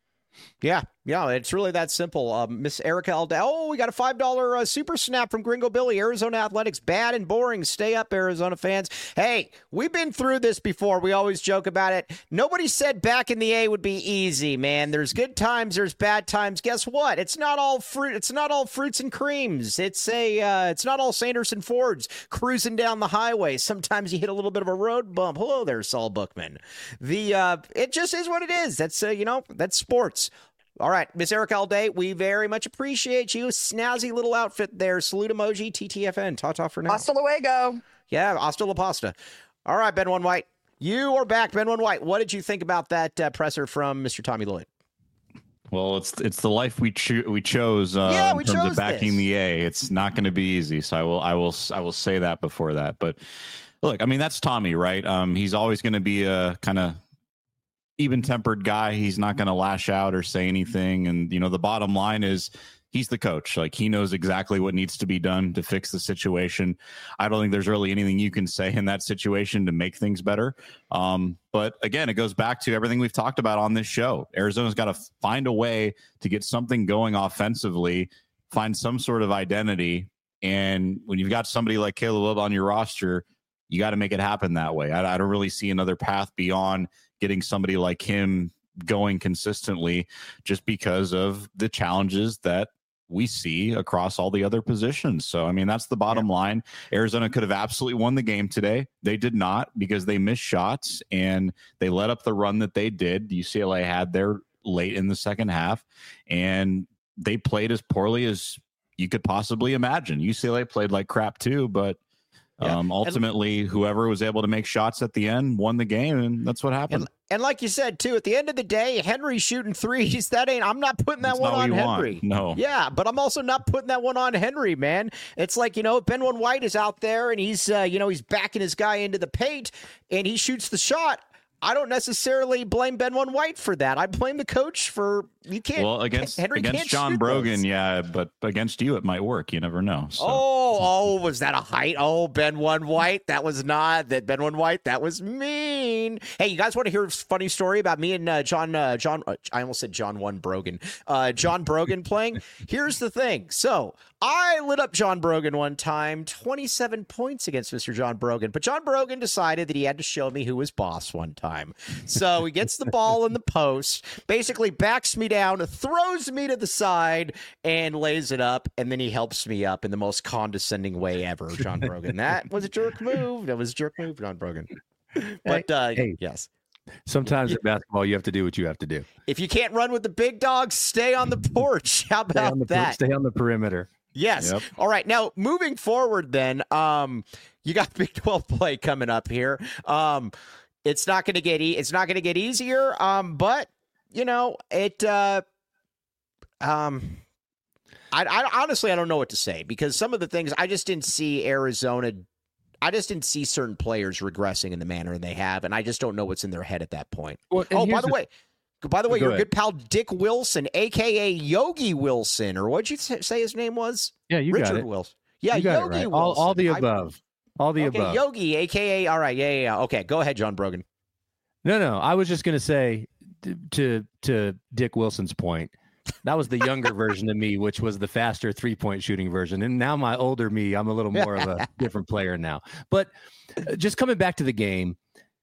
Yeah, yeah, it's really that simple. Um, Miss Erica Alda. Oh, we got a five dollar uh, super snap from Gringo Billy. Arizona athletics, bad and boring. Stay up, Arizona fans. Hey, we've been through this before. We always joke about it. Nobody said back in the A would be easy, man. There's good times, there's bad times. Guess what? It's not all fruit. It's not all fruits and creams. It's a. Uh, it's not all Sanderson Fords cruising down the highway. Sometimes you hit a little bit of a road bump. Hello there, Saul Bookman. The uh, it just is what it is. That's uh, you know that's sports. All right, Miss Erica Alday, we very much appreciate you. Snazzy little outfit there. Salute emoji, T T F N. Ta-ta for now. Hasta luego. Yeah, hasta la pasta. All right, Ben One White. You are back, Ben One White. What did you think about that uh, presser from Mister Tommy Lloyd? Well, it's it's the life we cho- we chose uh, yeah, we in terms chose of backing this. the A. It's not going to be easy, so I will I will I will say that before that. But look, I mean that's Tommy, right? Um, he's always going to be a kind of even-tempered guy. He's not going to lash out or say anything. And, you know, the bottom line is he's the coach. Like, he knows exactly what needs to be done to fix the situation. I don't think there's really anything you can say in that situation to make things better. Um, but again, it goes back to everything we've talked about on this show. Arizona's got to find a way to get something going offensively, find some sort of identity. And when you've got somebody like Caleb Love on your roster, you got to make it happen that way. I, I don't really see another path beyond getting somebody like him going consistently, just because of the challenges that we see across all the other positions. So, I mean, that's the bottom yeah. line. Arizona could have absolutely won the game today. They did not, because they missed shots and they let up the run that they did. U C L A had there late in the second half, and they played as poorly as you could possibly imagine. U C L A played like crap too, but Yeah. Um, ultimately, and, whoever was able to make shots at the end won the game, and that's what happened. And, and like you said, too, at the end of the day, Henry shooting threes, that ain't, I'm not putting that that's one on Henry. Want. No. Yeah, but I'm also not putting that one on Henry, man. It's like, you know, Ben One White is out there, and he's, uh, you know, he's backing his guy into the paint, and he shoots the shot. I don't necessarily blame Ben One White for that. I blame the coach for you can't. Well, against Henry against can't John shoot Brogan, those. yeah, but against you, it might work. You never know. So. Oh, oh, was that a height? Oh, Ben One White, that was not that Ben One White. That was mean. Hey, you guys want to hear a funny story about me and uh, John? Uh, John, uh, I almost said John One Brogan. Uh, John Brogan playing. Here's the thing. So I lit up John Brogan one time, twenty-seven points against Mister John Brogan. But John Brogan decided that he had to show me who was boss one time. So he gets the ball in the post, basically backs me down, throws me to the side, and lays it up. And then he helps me up in the most condescending way ever, John Brogan. That was a jerk move. That was a jerk move, John Brogan. But uh, hey, yes. Sometimes in basketball, you have to do what you have to do. If you can't run with the big dogs, stay on the porch. How about stay on the, that? Stay on the perimeter. Yes. Yep. All right. Now, moving forward then, um, you got Big twelve play coming up here. Um, it's not going to get e- it's not going to get easier, um, but, you know, it uh, Um, I, I honestly I don't know what to say because some of the things I just didn't see Arizona. I just didn't see certain players regressing in the manner they have, and I just don't know what's in their head at that point. Well, oh, by the, the way, by the way, go your ahead. good pal Dick Wilson, aka Yogi Wilson, or what'd you say his name was? Yeah, you Richard got it. Wilson. Yeah, you got Yogi it right. Wilson. All, all the above. I, all the okay, above. Yogi, aka all right, yeah, yeah, yeah. Okay, go ahead, John Brogan. No, no, I was just gonna say to to, to Dick Wilson's point. That was the younger version of me, which was the faster three-point shooting version. And now my older me, I'm a little more of a different player now. But just coming back to the game,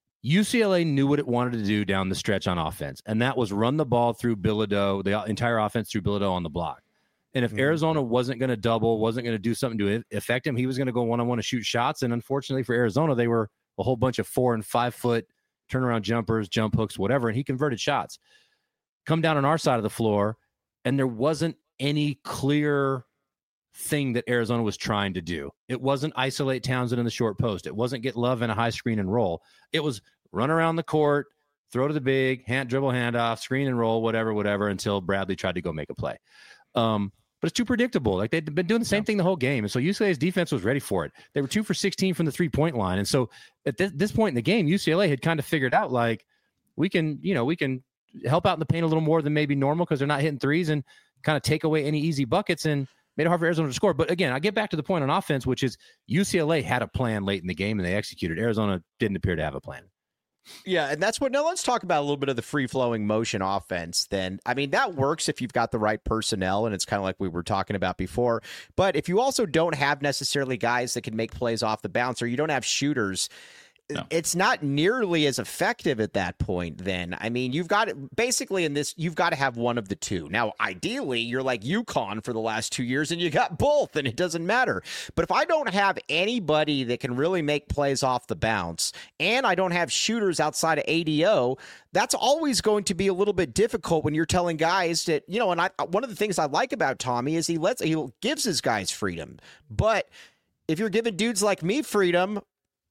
U C L A knew what it wanted to do down the stretch on offense, and that was run the ball through Bilodeau, the entire offense through Bilodeau on the block. And if mm-hmm. Arizona wasn't going to double, wasn't going to do something to affect him, he was going to go one-on-one to shoot shots. And unfortunately for Arizona, they were a whole bunch of four- and five-foot turnaround jumpers, jump hooks, whatever, and he converted shots. Come down on our side of the floor, and there wasn't any clear thing that Arizona was trying to do. It wasn't isolate Townsend in the short post. It wasn't get Love in a high screen and roll. It was run around the court, throw to the big, hand dribble, handoff, screen and roll, whatever, whatever, until Bradley tried to go make a play. Um, but it's too predictable. Like they'd been doing the same yeah. thing the whole game. And so U C L A's defense was ready for it. They were two for sixteen from the three-point line. And so at this, this point in the game, U C L A had kind of figured out, like, we can, you know, we can help out in the paint a little more than maybe normal because they're not hitting threes and kind of take away any easy buckets and made it hard for Arizona to score. But again, I get back to the point on offense, which is U C L A had a plan late in the game and they executed. Arizona didn't appear to have a plan. Yeah, and that's what, now let's talk about a little bit of the free-flowing motion offense then. I mean, that works if you've got the right personnel, and it's kind of like we were talking about before. But if you also don't have necessarily guys that can make plays off the bounce, or you don't have shooters, no. it's not nearly as effective at that point then. I mean, you've got it basically in this, you've got to have one of the two. Now, ideally, you're like UConn for the last two years and you got both and it doesn't matter. But if I don't have anybody that can really make plays off the bounce and I don't have shooters outside of A D O, that's always going to be a little bit difficult when you're telling guys that, you know, and I, one of the things I like about Tommy is he lets, he gives his guys freedom. But if you're giving dudes like me freedom,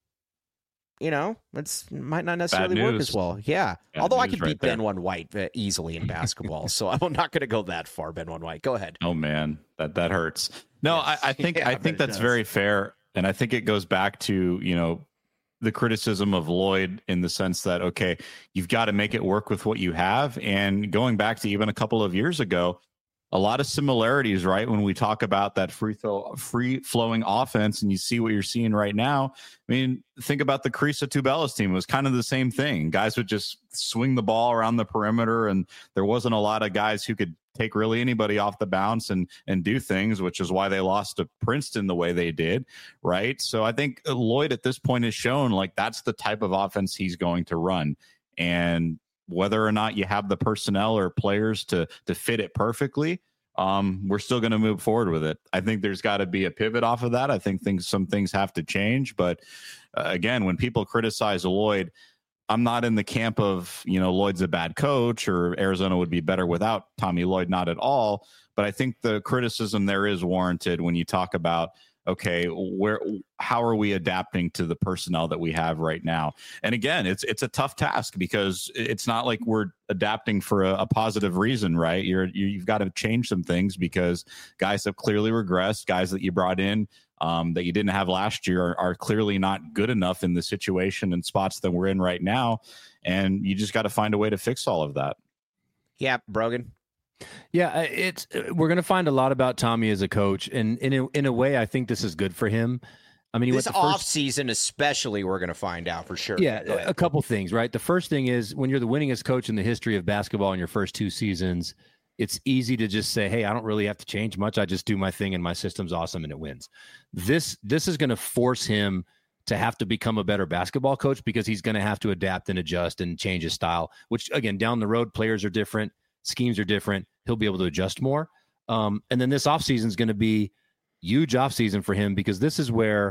you know, it might not necessarily work as well. Yeah. Bad Although I could right beat there. Ben One White easily in basketball. So I'm not going to go that far, Ben One White. Go ahead. Oh, man, that that hurts. No, Yes. I, I think Yeah, I I think bet it that's does. very fair. And I think it goes back to, you know, the criticism of Lloyd in the sense that, okay, you've got to make it work with what you have. And going back to even a couple of years ago, a lot of similarities, right? When we talk about that free throw, free flowing offense and you see what you're seeing right now. I mean, think about the Carissa Tubelis team. It was kind of the same thing. Guys would just swing the ball around the perimeter and there wasn't a lot of guys who could take really anybody off the bounce and, and do things, which is why they lost to Princeton the way they did. Right. So I think Lloyd at this point has shown like that's the type of offense he's going to run. And whether or not you have the personnel or players to to fit it perfectly, um, we're still going to move forward with it. I think there's got to be a pivot off of that. I think things, some things have to change. But uh, again, when people criticize Lloyd, I'm not in the camp of, you know, Lloyd's a bad coach or Arizona would be better without Tommy Lloyd, not at all. But I think the criticism there is warranted when you talk about, okay, where, how are we adapting to the personnel that we have right now? And again, it's it's a tough task because it's not like we're adapting for a, a positive reason, right? You're you, you've got to change some things because guys have clearly regressed. Guys that you brought in um, that you didn't have last year are, are clearly not good enough in the situation and spots that we're in right now. And you just got to find a way to fix all of that. Yeah, Brogan. Yeah, it's we're going to find a lot about Tommy as a coach, and in a, in a way, I think this is good for him. I mean, he This went the first, off season, especially, we're going to find out for sure. yeah, a couple things, right? The first thing is when you're the winningest coach in the history of basketball in your first two seasons, it's easy to just say, "Hey, I don't really have to change much. I just do my thing, and my system's awesome, and it wins." This this is going to force him to have to become a better basketball coach because he's going to have to adapt and adjust and change his style. Which again, down the road, players are different. Schemes are different. He'll be able to adjust more. Um, and then this offseason is going to be huge offseason for him because this is where,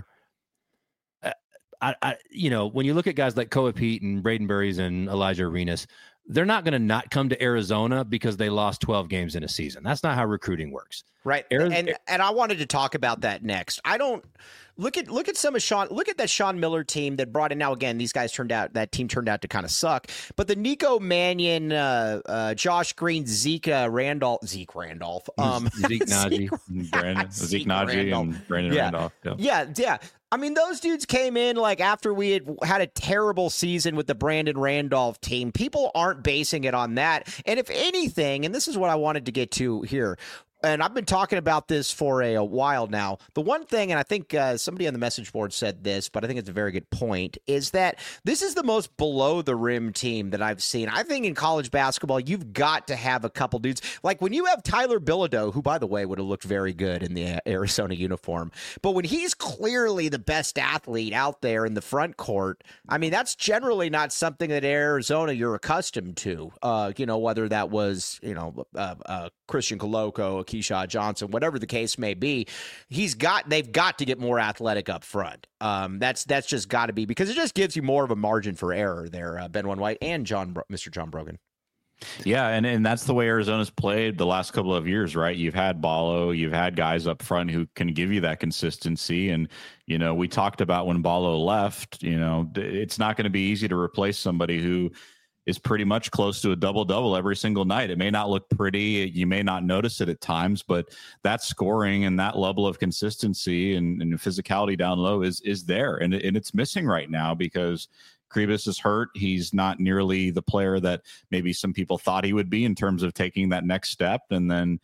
uh, I, I, you know, when you look at guys like Koa Pete and Braden Burries and Elijah Arenas, they're not going to not come to Arizona because they lost twelve games in a season. That's not how recruiting works. Right. Ariz- and and I wanted to talk about that next. I don't Look at look at some of Sean. Look at that Sean Miller team that brought in. Now again, these guys turned out that team turned out to kind of suck. But the Nico Mannion, uh, uh, Josh Green, Zeke uh, Randolph, Zeke Randolph, um, Zeke Najee, Zeke, Brandon, Zeke, Zeke Najee, and Brandon yeah. Randolph. Yeah. yeah, yeah. I mean, those dudes came in like after we had had a terrible season with the Brandon Randolph team. People aren't basing it on that. And if anything, and this is what I wanted to get to here, and I've been talking about this for a, a while now. The one thing, and I think uh, somebody on the message board said this, but I think it's a very good point, is that this is the most below-the-rim team that I've seen. I think in college basketball, you've got to have a couple dudes. Like when you have Tyler Bilodeau, who, by the way, would have looked very good in the Arizona uniform, but when he's clearly the best athlete out there in the front court, I mean, that's generally not something that Arizona you're accustomed to, uh, you know, whether that was, you know, uh, uh, Christian Coloco, Keyshawn Johnson, whatever the case may be. He's got, they've got to get more athletic up front. Um, that's that's just got to be, because it just gives you more of a margin for error there, uh, Ben One White and John, Mister John Brogan. Yeah, and, and that's the way Arizona's played the last couple of years, right? You've had Ballo, you've had guys up front who can give you that consistency. And, you know, we talked about when Ballo left, you know, it's not going to be easy to replace somebody who is pretty much close to a double-double every single night. It may not look pretty. You may not notice it at times, but that scoring and that level of consistency and, and physicality down low is is there. And, and it's missing right now because Kribis is hurt. He's not nearly the player that maybe some people thought he would be in terms of taking that next step. And then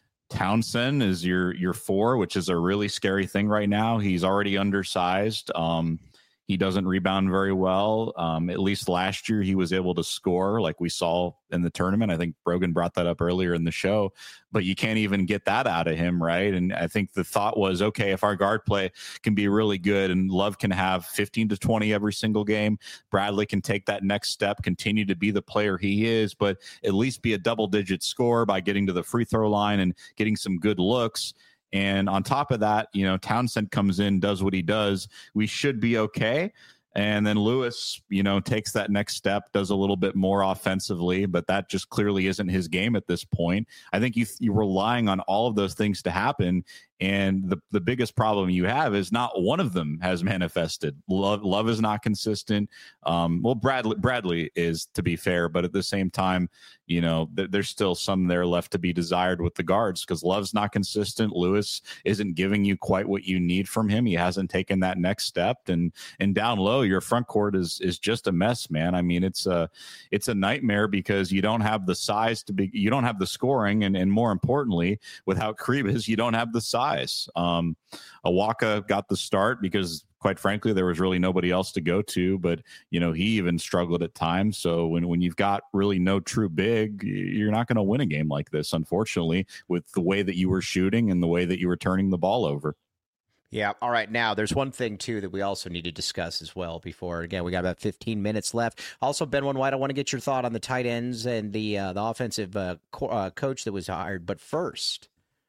Townsend is your your four, which is a really scary thing right now. He's already undersized. Um, He doesn't rebound very well. Um, at least last year, he was able to score like we saw in the tournament. I think Brogan brought that up earlier in the show, but you can't even get that out of him, right? And I think the thought was, okay, if our guard play can be really good and Love can have fifteen to twenty every single game, Bradley can take that next step, continue to be the player he is, but at least be a double-digit scorer by getting to the free throw line and getting some good looks. And on top of that, you know, Townsend comes in, does what he does. We should be okay. And then Lewis, you know, takes that next step, does a little bit more offensively, but that just clearly isn't his game at this point. I think you, you're relying on all of those things to happen. And the, the biggest problem you have is not one of them has manifested. Love, Love is not consistent. Um, well, Bradley, Bradley is, to be fair, but at the same time, you know, th- there's still some there left to be desired with the guards because Love's not consistent. Lewis isn't giving you quite what you need from him. He hasn't taken that next step. And and down low, your front court is is just a mess, man. I mean, it's a it's a nightmare because you don't have the size to be, you don't have the scoring, and and more importantly, without Kribis, you don't have the size. Um, Awaka got the start because, quite frankly, there was really nobody else to go to, but, you know, he even struggled at times. So when, when you've got really no true big, you're not going to win a game like this, unfortunately, with the way that you were shooting and the way that you were turning the ball over. Yeah. All right. Now, there's one thing, too, that we also need to discuss as well before, again, we got about fifteen minutes left. Also, Ben One White, I want to get your thought on the tight ends and the, uh, the offensive uh, co- uh, coach that was hired. But first,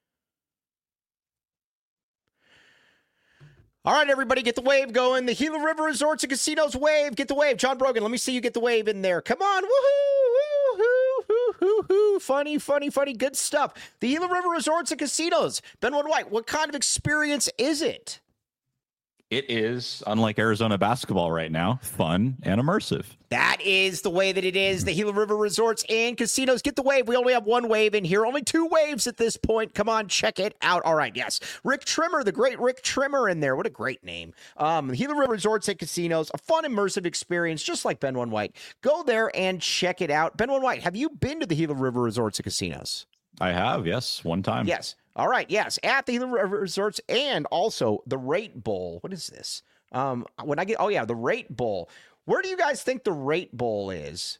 all right, everybody, get the wave going. The Gila River Resorts and Casinos wave. Get the wave. John Brogan, let me see you get the wave in there. Come on. Woohoo. Woohoo. Woohoo. Woohoo. Funny, funny, funny. Good stuff. The Gila River Resorts and Casinos. Ben One White, what kind of experience is it? It is, unlike Arizona basketball right now, fun and immersive. That is the way that it is. The Gila River Resorts and Casinos. Get the wave. We only have one wave in here. Only two waves at this point. Come on, check it out. All right, yes. Rick Trimmer, the great Rick Trimmer in there. What a great name. Um, the Gila River Resorts and Casinos, a fun, immersive experience, just like Ben One White. Go there and check it out. Ben One White, have you been to the Gila River Resorts and Casinos? I have, yes, one time. Yes. All right, yes, at the Gila River Resorts and also the Rate Bowl. What is this? Um, when I get, oh yeah, the Rate Bowl. Where do you guys think the Rate Bowl is?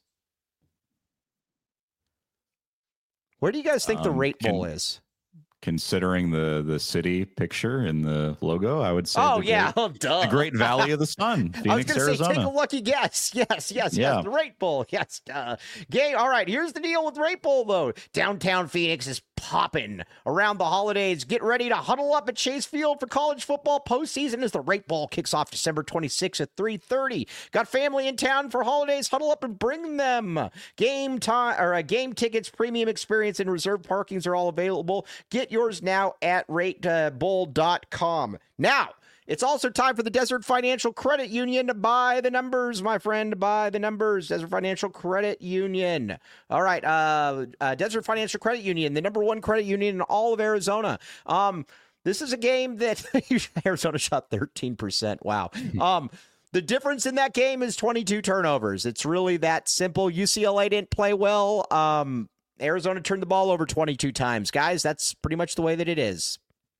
Where do you guys think um, the Rate can, Bowl is? Considering the the city picture in the logo, I would say. Oh the yeah, great, oh duh. The Great Valley of the Sun, Phoenix, I was gonna Arizona. Say, take a lucky guess. Yes, yes, yeah. yes. The Rate Bowl. Yes. Uh, gay. All right. Here's the deal with Rate Bowl though. Downtown Phoenix is popping around the holidays. Get ready to huddle up at Chase Field for college football postseason as the Rate Bowl kicks off December twenty-sixth at three thirty. Got family in town for holidays? Huddle up and bring them. Game time or uh, game tickets, premium experience, and reserved parkings are all available. Get yours now at rate bowl dot com. Now, It's also time for the Desert Financial Credit Union to buy the numbers, my friend. Buy the numbers. Desert Financial Credit Union. All right. Uh, uh, Desert Financial Credit Union, the number one credit union in all of Arizona. Um, this is a game that Arizona shot thirteen percent. Wow. Um, the difference in that game is twenty-two turnovers. It's really that simple. U C L A didn't play well. Um, Arizona turned the ball over twenty-two times. Guys, that's pretty much the way that it is.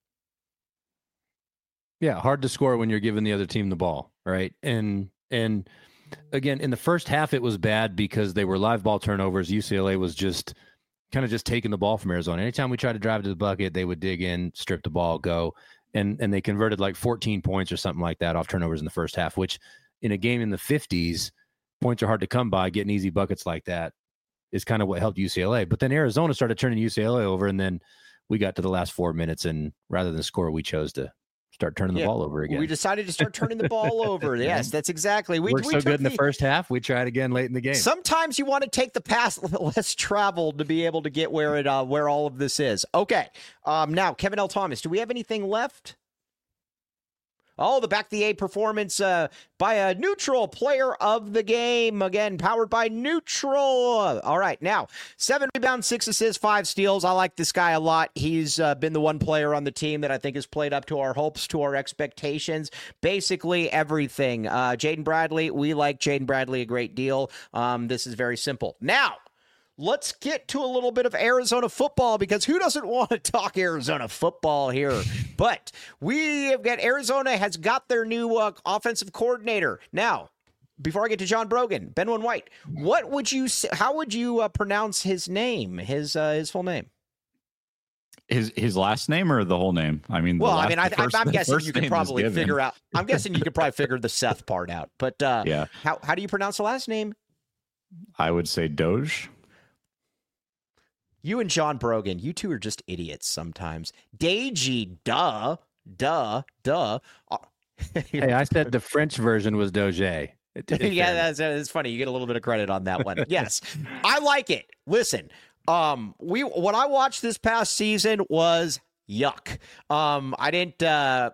Yeah, hard to score when you're giving the other team the ball, right? And and again, in the first half, it was bad because they were live ball turnovers. U C L A was just kind of just taking the ball from Arizona. Anytime we tried to drive to the bucket, they would dig in, strip the ball, go. And and they converted like fourteen points or something like that off turnovers in the first half, which in a game in the fifties, points are hard to come by. Getting easy buckets like that is kind of what helped U C L A. But then Arizona started turning U C L A over, and then we got to the last four minutes, and rather than score, we chose to start turning the yeah, ball over again. We decided to start turning the ball over. Yes, that's exactly. We were so good in the, the first half. We tried again late in the game. Sometimes you want to take the path less traveled to be able to get where it uh, where all of this is. Okay. Um, now, Kevin L. Thomas, do we have anything left? Oh, the back the A performance uh, by a neutral player of the game. Again, powered by Neutral. All right, now, seven rebounds, six assists, five steals. I like this guy a lot. He's uh, been the one player on the team that I think has played up to our hopes, to our expectations. Basically everything. Uh, Jaden Bradley, we like Jaden Bradley a great deal. Um, this is very simple. Now, let's get to a little bit of Arizona football, because who doesn't want to talk Arizona football here? But we have got Arizona has got their new uh, offensive coordinator. Now, before I get to John Brogan, Benwin White, what would you say, how would you uh, pronounce his name, his uh, his full name? His his last name or the whole name? I mean, well, last, I mean, I, first, I'm guessing you could probably figure out. I'm guessing you could probably figure the Seth part out. But uh, yeah, how how do you pronounce the last name? I would say Doge. You and John Brogan, you two are just idiots sometimes. Deji, duh, duh, duh. Hey, I said the French version was Doge. It, yeah, that's, that's funny. You get a little bit of credit on that one. Yes, I like it. Listen, um, we what I watched this past season was yuck. Um, I didn't. Uh,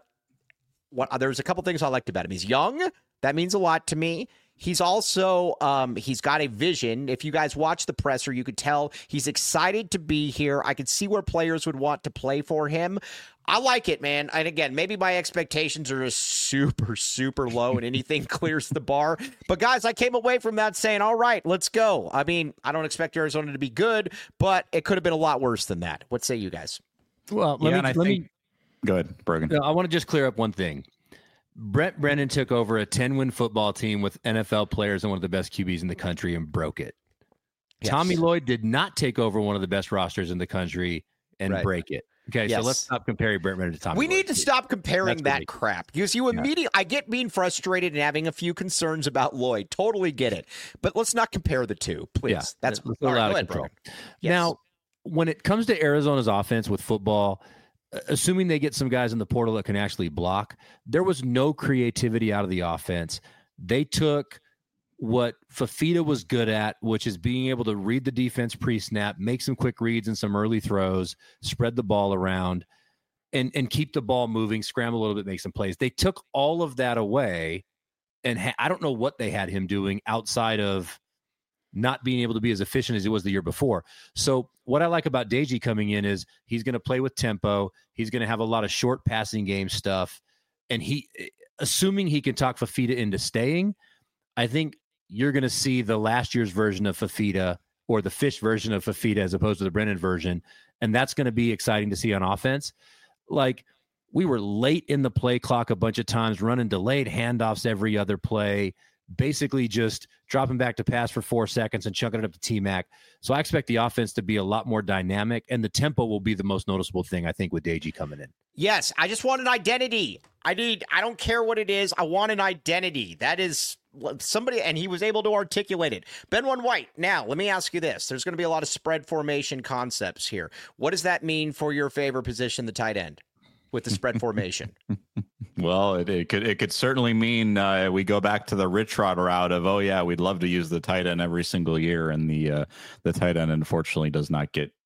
what there's a couple things I liked about him. He's young. That means a lot to me. He's also, um, he's got a vision. If you guys watch the presser, you could tell he's excited to be here. I could see where players would want to play for him. I like it, man. And again, maybe my expectations are just super, super low and anything clears the bar. But guys, I came away from that saying, all right, let's go. I mean, I don't expect Arizona to be good, but it could have been a lot worse than that. What say you guys? Well, let yeah, me, and I let think, me go ahead, Brogan. I want to just clear up one thing. Brent Brennan took over a ten-win football team with N F L players and one of the best Q Bs in the country and broke it. Yes. Tommy Lloyd did not take over one of the best rosters in the country and right. break it. Okay, yes. So let's stop comparing Brent Brennan to Tommy We Lloyd. need to stop comparing That's that crap, because you immediately, yeah. I get being frustrated and having a few concerns about Lloyd. Totally get it. But let's not compare the two, please. Yeah, That's a lot right, of control. Yes. Now, when it comes to Arizona's offense with football, assuming they get some guys in the portal that can actually block, there was no creativity out of the offense. They took what Fafita was good at, which is being able to read the defense pre-snap, make some quick reads and some early throws, spread the ball around, and, and keep the ball moving, scramble a little bit, make some plays. They took all of that away, and ha- I don't know what they had him doing outside of not being able to be as efficient as he was the year before. So what I like about Deji coming in is he's going to play with tempo. He's going to have a lot of short passing game stuff. And he, assuming he can talk Fafita into staying, I think you're going to see the last year's version of Fafita, or the Fish version of Fafita as opposed to the Brennan version. And that's going to be exciting to see on offense. Like, we were late in the play clock a bunch of times, running delayed handoffs every other play, basically just dropping back to pass for four seconds and chunking it up to T-Mac. So I expect the offense to be a lot more dynamic, and the tempo will be the most noticeable thing, I think, with Deji coming in. Yes, I just want an identity. I need, I don't care what it is. I want an identity. That is somebody, and he was able to articulate it. Benwin White, now, let me ask you this. There's going to be a lot of spread formation concepts here. What does that mean for your favorite position, the tight end, with the spread formation? Well, it, it could it could certainly mean uh, we go back to the Rich Rod route of, oh yeah, we'd love to use the tight end every single year, and the uh, the tight end unfortunately does not get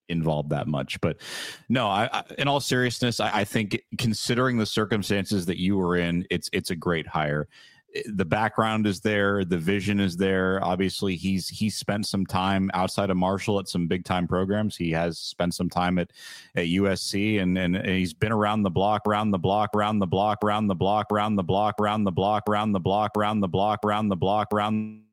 involved that much. But no, I, I in all seriousness, I, I think considering the circumstances that you were in, it's it's a great hire. The background is there, the vision is there. Obviously, he's he's spent some time outside of Marshall at some big time programs. He has spent some time at, at U S C, and, and and he's been around the block, around the block, around the block, around the block, around the block, around the block, around the block, around the block, around the block, around.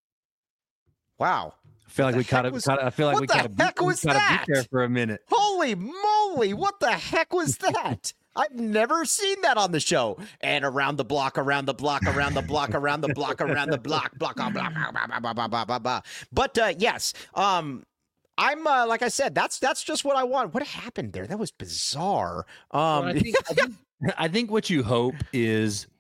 Wow. I feel like we kind of. I feel like what we the kind of. heck was that? There for a minute. Holy moly! What the heck was that? I've never seen that on the show. And around the block, around the block, around the block, around the block, around the block, block, block, block, block, block, block, block, block, block. But uh, yes, um, I'm uh, like I said, that's that's just what I want. What happened there? That was bizarre. Um, well, I, think, I, think, I think what you hope is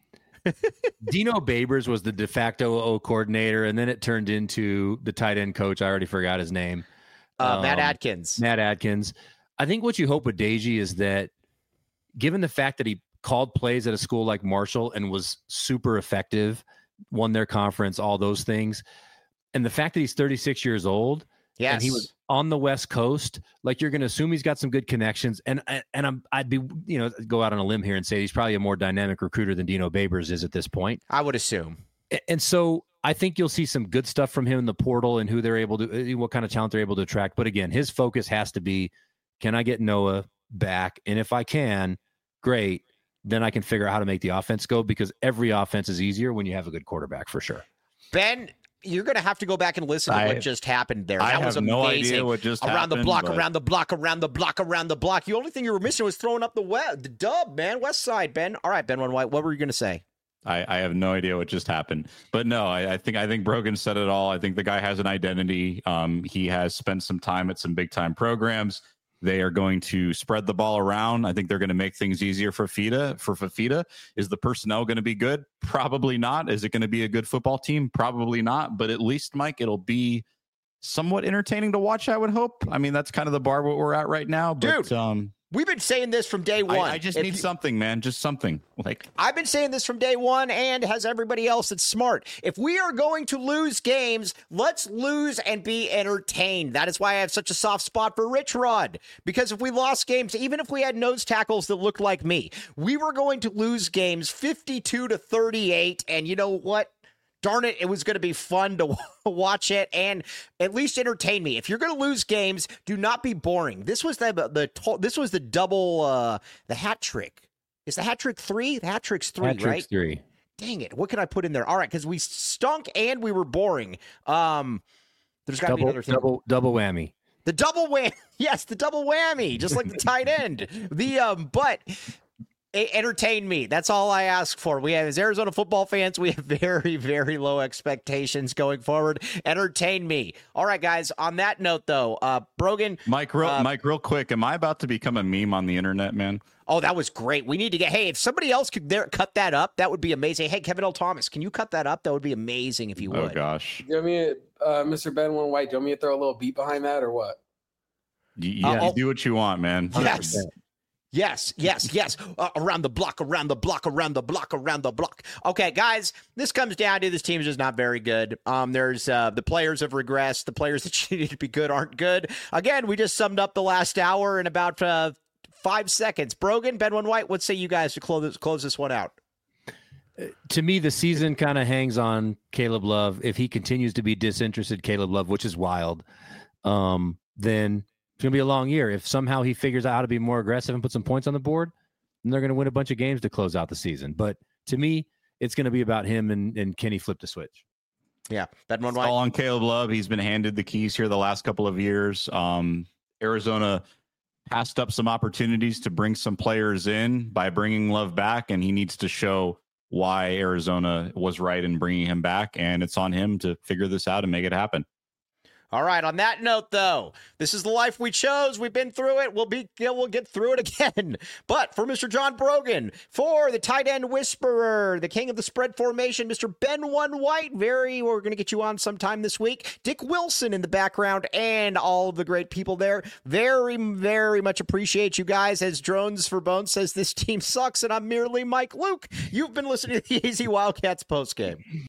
Dino Babers was the de facto O coordinator, and then it turned into the tight end coach. I already forgot his name. Uh, um, Matt Adkins. Matt Adkins. I think what you hope with Deji is that, given the fact that he called plays at a school like Marshall and was super effective, won their conference, all those things, and the fact that he's thirty-six years old, yes, and he was on the West Coast, like you're going to assume he's got some good connections. And and I'm I'd be you know go out on a limb here and say he's probably a more dynamic recruiter than Dino Babers is at this point. I would assume. And so I think you'll see some good stuff from him in the portal and who they're able to, what kind of talent they're able to attract. But again, his focus has to be, can I get Noah back? And if I can, great. Then I can figure out how to make the offense go, because every offense is easier when you have a good quarterback, for sure. Ben, you're going to have to go back and listen to I, what just happened there. I that have was amazing. no idea what just around happened. the block, but... around the block, around the block, around the block. The only thing you were missing was throwing up the web, the dub, man. West Side, Ben. All right, Ben One White, what were you going to say? I, I have no idea what just happened, but no, I, I think I think Brogan said it all. I think the guy has an identity. Um, he has spent some time at some big time programs. They are going to spread the ball around. I think they're going to make things easier for Fifita. For Fifita, is the personnel going to be good? Probably not. Is it going to be a good football team? Probably not. But at least, Mike, it'll be somewhat entertaining to watch, I would hope. I mean, that's kind of the bar what we're at right now. But, Dude, um, we've been saying this from day one. I, I just if need you, something, man. Just something. Like I've been saying this from day one, and has everybody else that's smart. If we are going to lose games, let's lose and be entertained. That is why I have such a soft spot for Rich Rod. Because if we lost games, even if we had nose tackles that looked like me, we were going to lose games fifty-two to thirty-eight. And you know what? Darn it, it was going to be fun to watch it and at least entertain me. If you're going to lose games, do not be boring. This was the the this was the double uh, the hat trick. Is the hat trick three? The hat trick's three, hat trick's right? Three. Dang it! What can I put in there? All right, because we stunk and we were boring. Um, there's got to be another thing. Double double whammy. The double whammy. Yes, the double whammy, just like the tight end. The um, but. Entertain me. That's all I ask for. We have, as Arizona football fans, we have very, very low expectations going forward. Entertain me. All right, guys. On that note, though, uh, Brogan, Mike, real, uh, Mike, real quick. Am I about to become a meme on the internet, man? Oh, that was great. We need to get. Hey, if somebody else could there cut that up, that would be amazing. Hey, Kevin L. Thomas, can you cut that up? That would be amazing if you would. Oh gosh. Do you want me, to, uh, Mister Ben One White? Do you want me to throw a little beat behind that or what? You, you, Uh, you do what you want, man. Yes. Yes, yes, yes. Uh, around the block, around the block, around the block, around the block. Okay, guys, this comes down to this team is just not very good. Um, there's uh, the players have regressed. The players that you need to be good aren't good. Again, we just summed up the last hour in about uh, five seconds. Brogan, Ben One White, what say you guys to close close this one out? To me, the season kind of hangs on Caleb Love. If he continues to be disinterested, Caleb Love, which is wild, um, then it's going to be a long year. If somehow he figures out how to be more aggressive and put some points on the board, then they're going to win a bunch of games to close out the season. But to me, it's going to be about him and, and can he flip the switch? Yeah, Ben One It's White. all on Caleb Love. He's been handed the keys here the last couple of years. Um, Arizona passed up some opportunities to bring some players in by bringing Love back, and he needs to show why Arizona was right in bringing him back, and it's on him to figure this out and make it happen. All right. On that note, though, this is the life we chose. We've been through it. We'll be. We'll get through it again. But for Mister John Brogan, for the tight end whisperer, the king of the spread formation, Mister Ben One White. Very. We're going to get you on sometime this week. Dick Wilson in the background, and all of the great people there. Very, very much appreciate you guys. As Drones for Bones says, this team sucks, and I'm merely Mike Luke. You've been listening to the Easy Wildcats postgame.